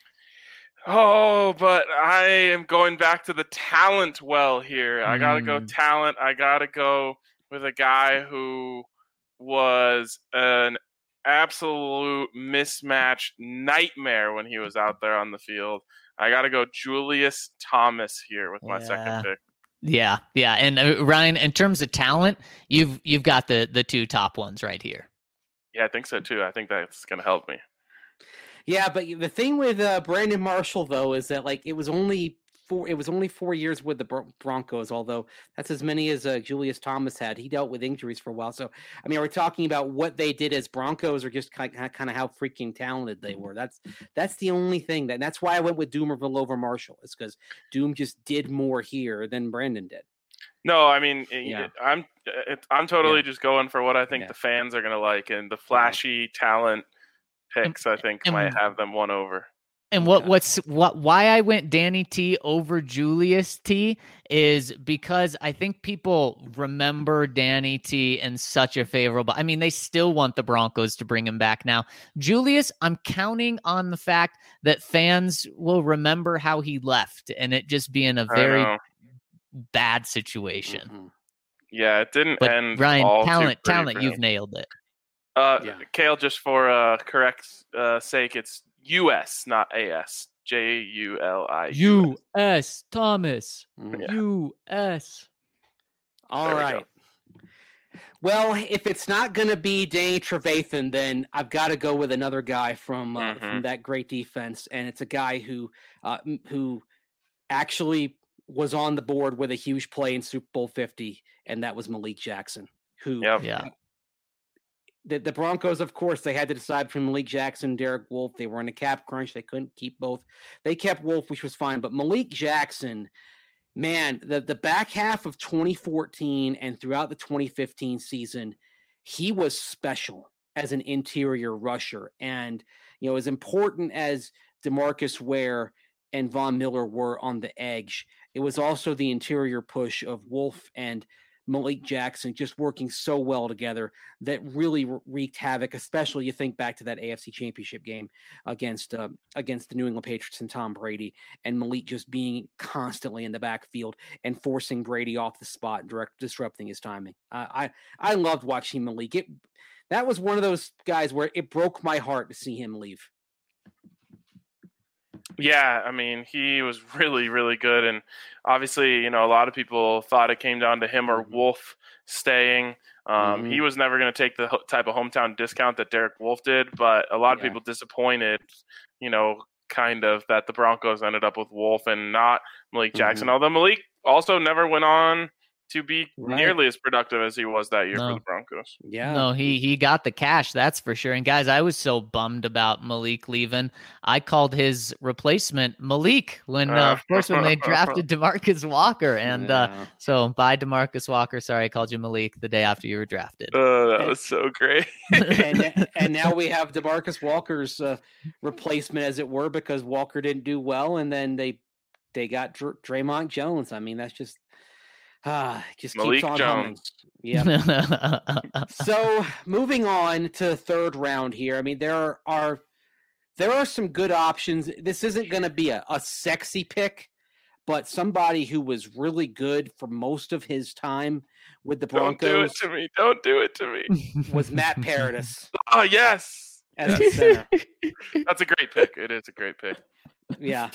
Oh, but I am going back to the talent well here. I got to go talent. I got to go with a guy who was an absolute mismatch nightmare when he was out there on the field. I got to go Julius Thomas here with my second pick. Yeah. And Ryan, in terms of talent, you've got the 2 top ones right here. Yeah, I think so too. I think that's going to help me. Yeah, but the thing with Brandon Marshall though is that like it was only 4 years with the Broncos, although that's as many as Julius Thomas had. He dealt with injuries for a while. So I mean, are we talking about what they did as Broncos, or just kind of how freaking talented they were? That's the only thing that's why I went with Doomerville over Marshall. It's because Doom just did more here than Brandon did. No, I mean, I'm totally just going for what I think the fans are going to like, and the flashy talent picks, I think, might have them won over. And why I went Danny T over Julius T is because I think people remember Danny T in such a favorable. I mean, they still want the Broncos to bring him back now. Julius, I'm counting on the fact that fans will remember how he left and it just being a very bad situation. Mm-hmm. Yeah, it didn't end. Ryan, talent, you've nailed it. Kale, just for correct sake, it's U.S., not A.S. J-U-L-I. U.S. Thomas. Yeah. U.S. All right. Well, if it's not going to be Danny Trevathan, then I've got to go with another guy from that great defense, and it's a guy who actually was on the board with a huge play in Super Bowl 50, and that was Malik Jackson. The Broncos, of course, they had to decide between Malik Jackson and Derek Wolfe. They were in a cap crunch. They couldn't keep both. They kept Wolfe, which was fine. But Malik Jackson, man, the back half of 2014 and throughout the 2015 season, he was special as an interior rusher. And, as important as DeMarcus Ware and Von Miller were on the edge, it was also the interior push of Wolfe and Malik Jackson just working so well together that really wreaked havoc, especially you think back to that AFC Championship game against the New England Patriots and Tom Brady, and Malik just being constantly in the backfield and forcing Brady off the spot and disrupting his timing. I loved watching Malik. That was one of those guys where it broke my heart to see him leave. Yeah, I mean, he was really, really good. And obviously, a lot of people thought it came down to him or Wolfe staying. He was never going to take the type of hometown discount that Derek Wolfe did, but a lot of people disappointed, kind of that the Broncos ended up with Wolfe and not Malik Jackson. Although Malik also never went on to be Right. nearly as productive as he was that year No. for the Broncos. Yeah. No, he got the cash, that's for sure. And guys, I was so bummed about Malik leaving. I called his replacement Malik when, of course, when they drafted DeMarcus Walker. And Yeah. so bye, DeMarcus Walker. Sorry, I called you Malik the day after you were drafted. That was so great. and now we have DeMarcus Walker's replacement, as it were, because Walker didn't do well, and then they got Draymond Jones. I mean, that's just just Malik keeps on Jones. humming. Yeah. So moving on to the third round here. I mean, there are some good options. This isn't going to be a sexy pick, but somebody who was really good for most of his time with the Don't Broncos do it to me. Don't do it to me. was Matt Paradis Oh, yes. as a center. That's a great pick. It is a great pick. Yeah.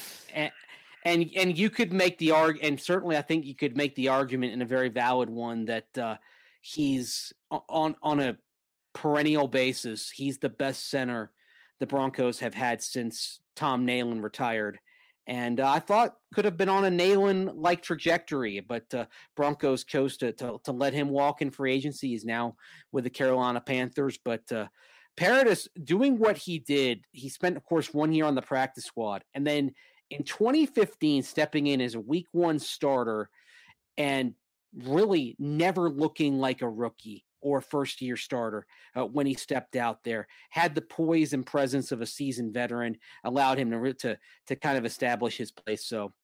And you could make the argument, and certainly I think you could make the argument in a very valid one that he's on a perennial basis. He's the best center the Broncos have had since Tom Nalen retired. And I thought could have been on a Nalen-like trajectory, but Broncos chose to let him walk in free agency. He's now with the Carolina Panthers. But Paradis, doing what he did, he spent, of course, 1 year on the practice squad. And then in 2015, stepping in as a week 1 starter and really never looking like a rookie or first-year starter when he stepped out there, had the poise and presence of a seasoned veteran, allowed him to kind of establish his place. So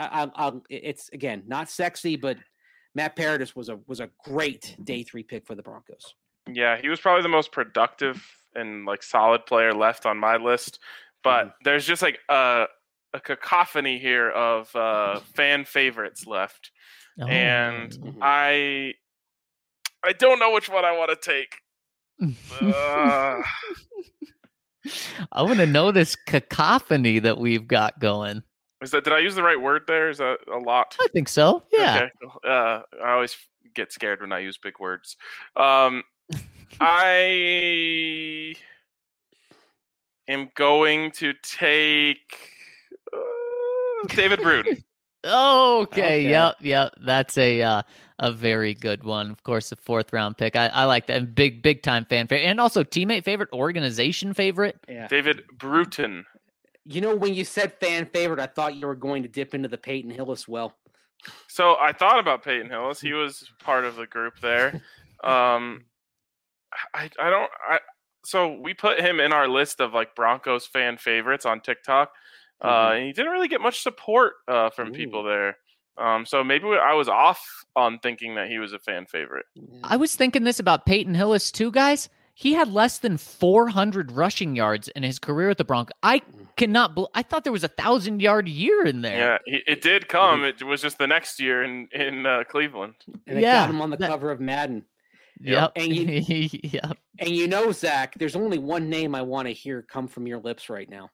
it's, again, not sexy, but Matt Paradis was a great day 3 pick for the Broncos. Yeah, he was probably the most productive and like solid player left on my list. But there's just like a cacophony here of fan favorites left. Oh. And I don't know which one I want to take. I want to know this cacophony that we've got going. Did I use the right word there? Is that a lot? I think so. Yeah. Okay. I always get scared when I use big words. I am going to take David Bruton. Okay. Yep. That's a very good one. Of course, a 4th round pick. I like that. And big time fan favorite, and also teammate favorite, organization favorite. Yeah. David Bruton. You know, when you said fan favorite, I thought you were going to dip into the Peyton Hillis well. So I thought about Peyton Hillis. He was part of the group there. So we put him in our list of like Broncos fan favorites on TikTok. And he didn't really get much support from people there. So maybe I was off on thinking that he was a fan favorite. I was thinking this about Peyton Hillis too, guys. He had less than 400 rushing yards in his career at the Broncos. I thought there was 1,000-yard year in there. Yeah, it did come. It was just the next year in Cleveland. And they got him on the cover of Madden. Yep. And you know, Zach, there's only one name I want to hear come from your lips right now.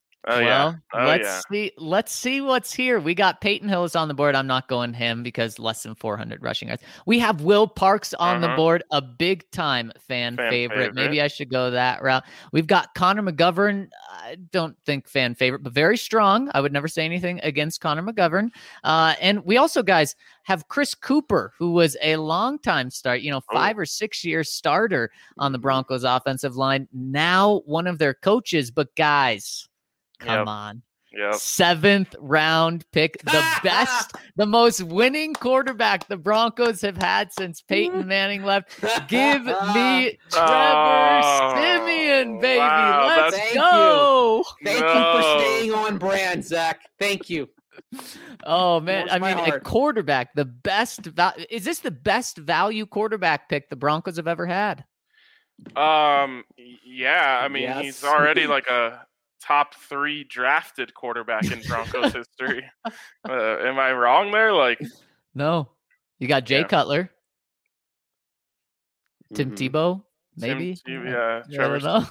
Let's see what's here. We got Peyton Hillis on the board. I'm not going him because less than 400 rushing yards. We have Will Parks on the board, a big time fan favorite. Maybe I should go that route. We've got Connor McGovern. I don't think fan favorite, but very strong. I would never say anything against Connor McGovern. And we also, guys, have Chris Cooper, who was a long-time start, 5 or 6 year starter on the Broncos offensive line. Now one of their coaches, but guys, come on. Yep. 7th round pick, the best, the most winning quarterback the Broncos have had since Peyton Manning left. Give me Trevor Siemian, baby. Wow, Let's go. Thank you for staying on brand, Zach. Thank you. Oh, man. A quarterback, the best. Is this the best value quarterback pick the Broncos have ever had? Yeah. Yes. He's already like a top 3 drafted quarterback in Broncos history. Am I wrong there? No. You got Jay Cutler, Tim Tebow, maybe. Trevor.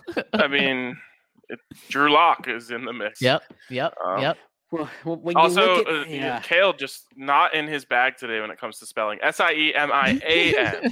Drew Lock is in the mix. Yep. Well, when also, you look at, Kale just not in his bag today when it comes to spelling. Siemian.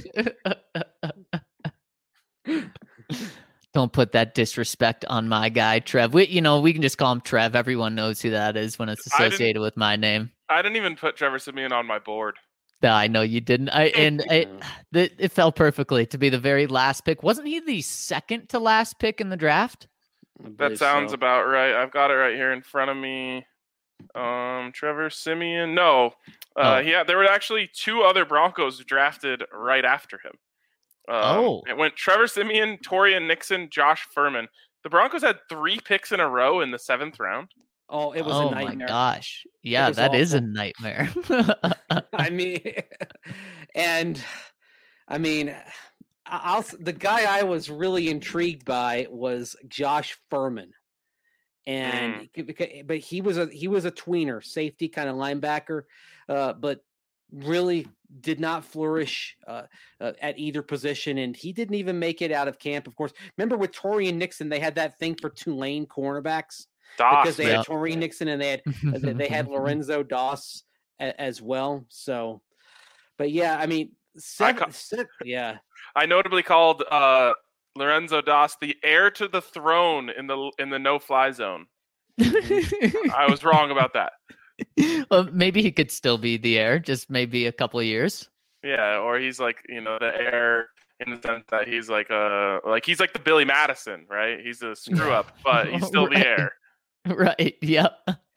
Don't put that disrespect on my guy, Trev. We can just call him Trev. Everyone knows who that is when it's associated with my name. I didn't even put Trevor Siemian on my board. No, I know you didn't. It fell perfectly to be the very last pick. Wasn't he the second to last pick in the draft? That sounds about right. I've got it right here in front of me. Trevor Siemian. No. There were actually 2 other Broncos drafted right after him. It went Trevor Siemian, Torian Nixon, Josh Furman. The Broncos had 3 picks in a row in the 7th round. Oh, it was a nightmare. Oh my gosh. Yeah, that is a nightmare. I mean, the guy I was really intrigued by was Josh Furman. And but he was a tweener, safety kind of linebacker, but really did not flourish at either position, and he didn't even make it out of camp. Of course, remember with Torian Nixon, they had that thing for Tulane cornerbacks because they had Torian Nixon and they had Lorenzo Doss as well. So, but yeah, I mean, I notably called Lorenzo Doss the heir to the throne in the no-fly zone. I was wrong about that. Well, maybe he could still be the heir, just maybe a couple of years. Yeah, or he's like, the heir in the sense that he's like he's like the Billy Madison, right? He's a screw up, but he's still the heir. Right. Yep.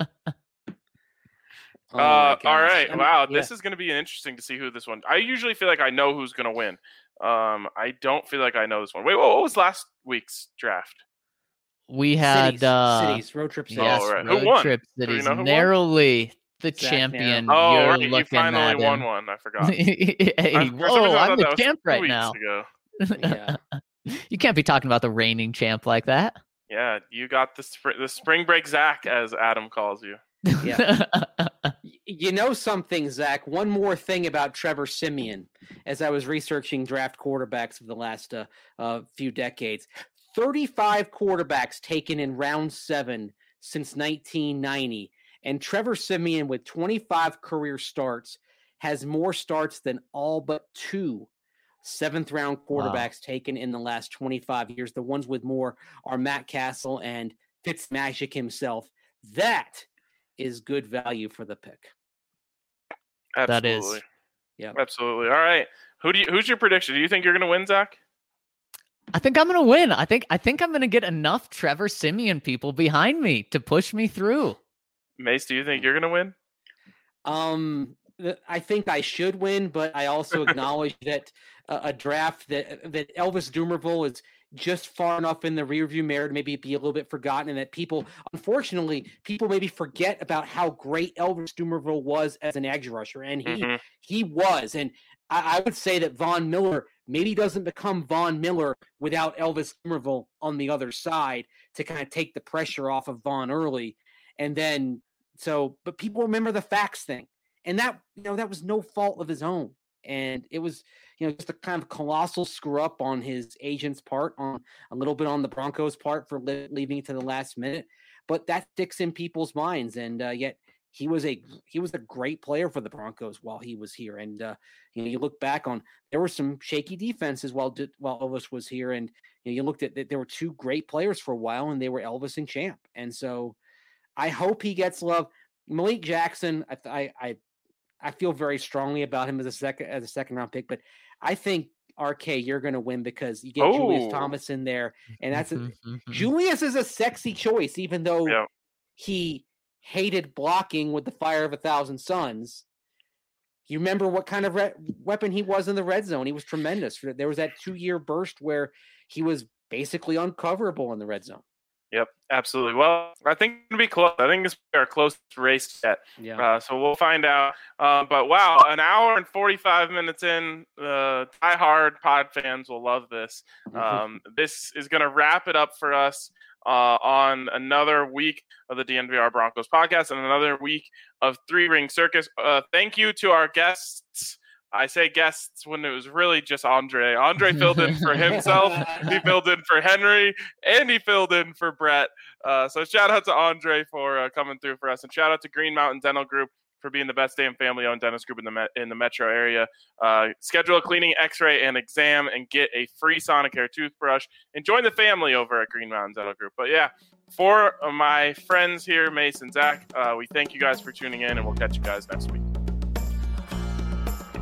All right. Wow, this is going to be interesting to see who this one. I usually feel like I know who's going to win. I don't feel like I know this one. Wait, what was last week's draft? We had cities, road trip cities. Yes, right. Road Who won? Trip cities. Who Narrowly won? The champion. Oh, right. You finally won one. I forgot. I'm the champ right now. Yeah. You can't be talking about the reigning champ like that. Yeah, you got the spring break Zach, as Adam calls you. Yeah. You know something, Zach? One more thing about Trevor Siemian, as I was researching draft quarterbacks of the last few decades. 35 quarterbacks taken in round 7 since 1990. And Trevor Siemian, with 25 career starts, has more starts than all but 2 7th-round quarterbacks taken in the last 25 years. The ones with more are Matt Castle and Fitzmagic himself. That is good value for the pick. Absolutely. That is. Yeah. Absolutely. All right. Who's your prediction? Do you think you're going to win, Zach? I think I'm going to win. I think I'm going to get enough Trevor Siemian people behind me to push me through. Mace, do you think you're going to win? I think I should win, but I also acknowledge that a draft that Elvis Dumervil is just far enough in the rearview mirror to maybe be a little bit forgotten, and that people maybe forget about how great Elvis Dumervil was as an edge rusher, and he was. And I would say that Von Miller maybe doesn't become Von Miller without Elvis Dumervil on the other side to kind of take the pressure off of Von early. And then, but people remember the facts thing. And that was no fault of his own. And it was, just a kind of colossal screw up on his agent's part, on a little bit on the Broncos' part for leaving it to the last minute. But that sticks in people's minds. And yet he was a great player for the Broncos while he was here. And you look back on, there were some shaky defenses while Elvis was here. And you looked at that, there were 2 great players for a while, and they were Elvis and Champ. And so I hope he gets love. Malik Jackson, I feel very strongly about him as a second round pick, but I think RK, you're going to win because you get Julius Thomas in there, and that's Julius is a sexy choice, even though he hated blocking with the fire of 1,000 suns. You remember what kind of weapon he was in the red zone? He was tremendous. There was that 2-year burst where he was basically uncoverable in the red zone. Yep, absolutely. Well, I think it'll be close. I think it's our closest race yet. Yeah. So we'll find out. But wow, an hour and 45 minutes in. Die-hard pod fans will love this. This is going to wrap it up for us on another week of the DNVR Broncos podcast and another week of 3 Ring Circus. Thank you to our guests. I say guests when it was really just Andre. Andre filled in for himself. He filled in for Henry, and he filled in for Brett. So shout out to Andre for coming through for us, and shout out to Green Mountain Dental Group for being the best damn family-owned dentist group in the metro area. Schedule a cleaning, X-ray, and exam, and get a free Sonicare toothbrush. And join the family over at Green Mountain Dental Group. But yeah, for my friends here, Mace and Zach, we thank you guys for tuning in, and we'll catch you guys next week.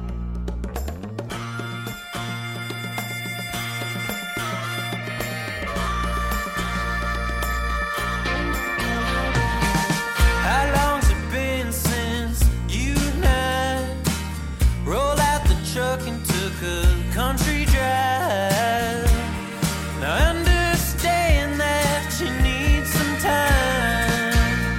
truck and took a country drive. Now I understand that you need some time.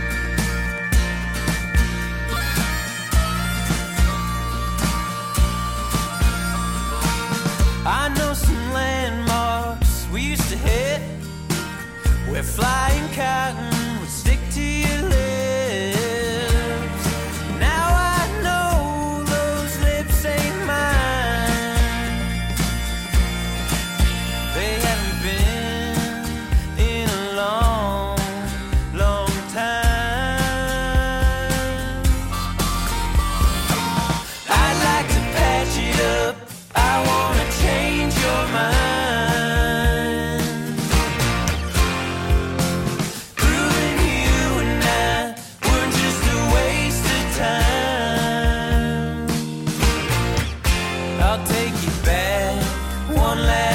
I know some landmarks we used to hit, where flying cotton would stick to your lips. Now I know those lips ain't mine. They haven't been in a long, long time. I'd like to patch it up. I wanna change your mind. Proving you and I were just a waste of time. I'll take you back one last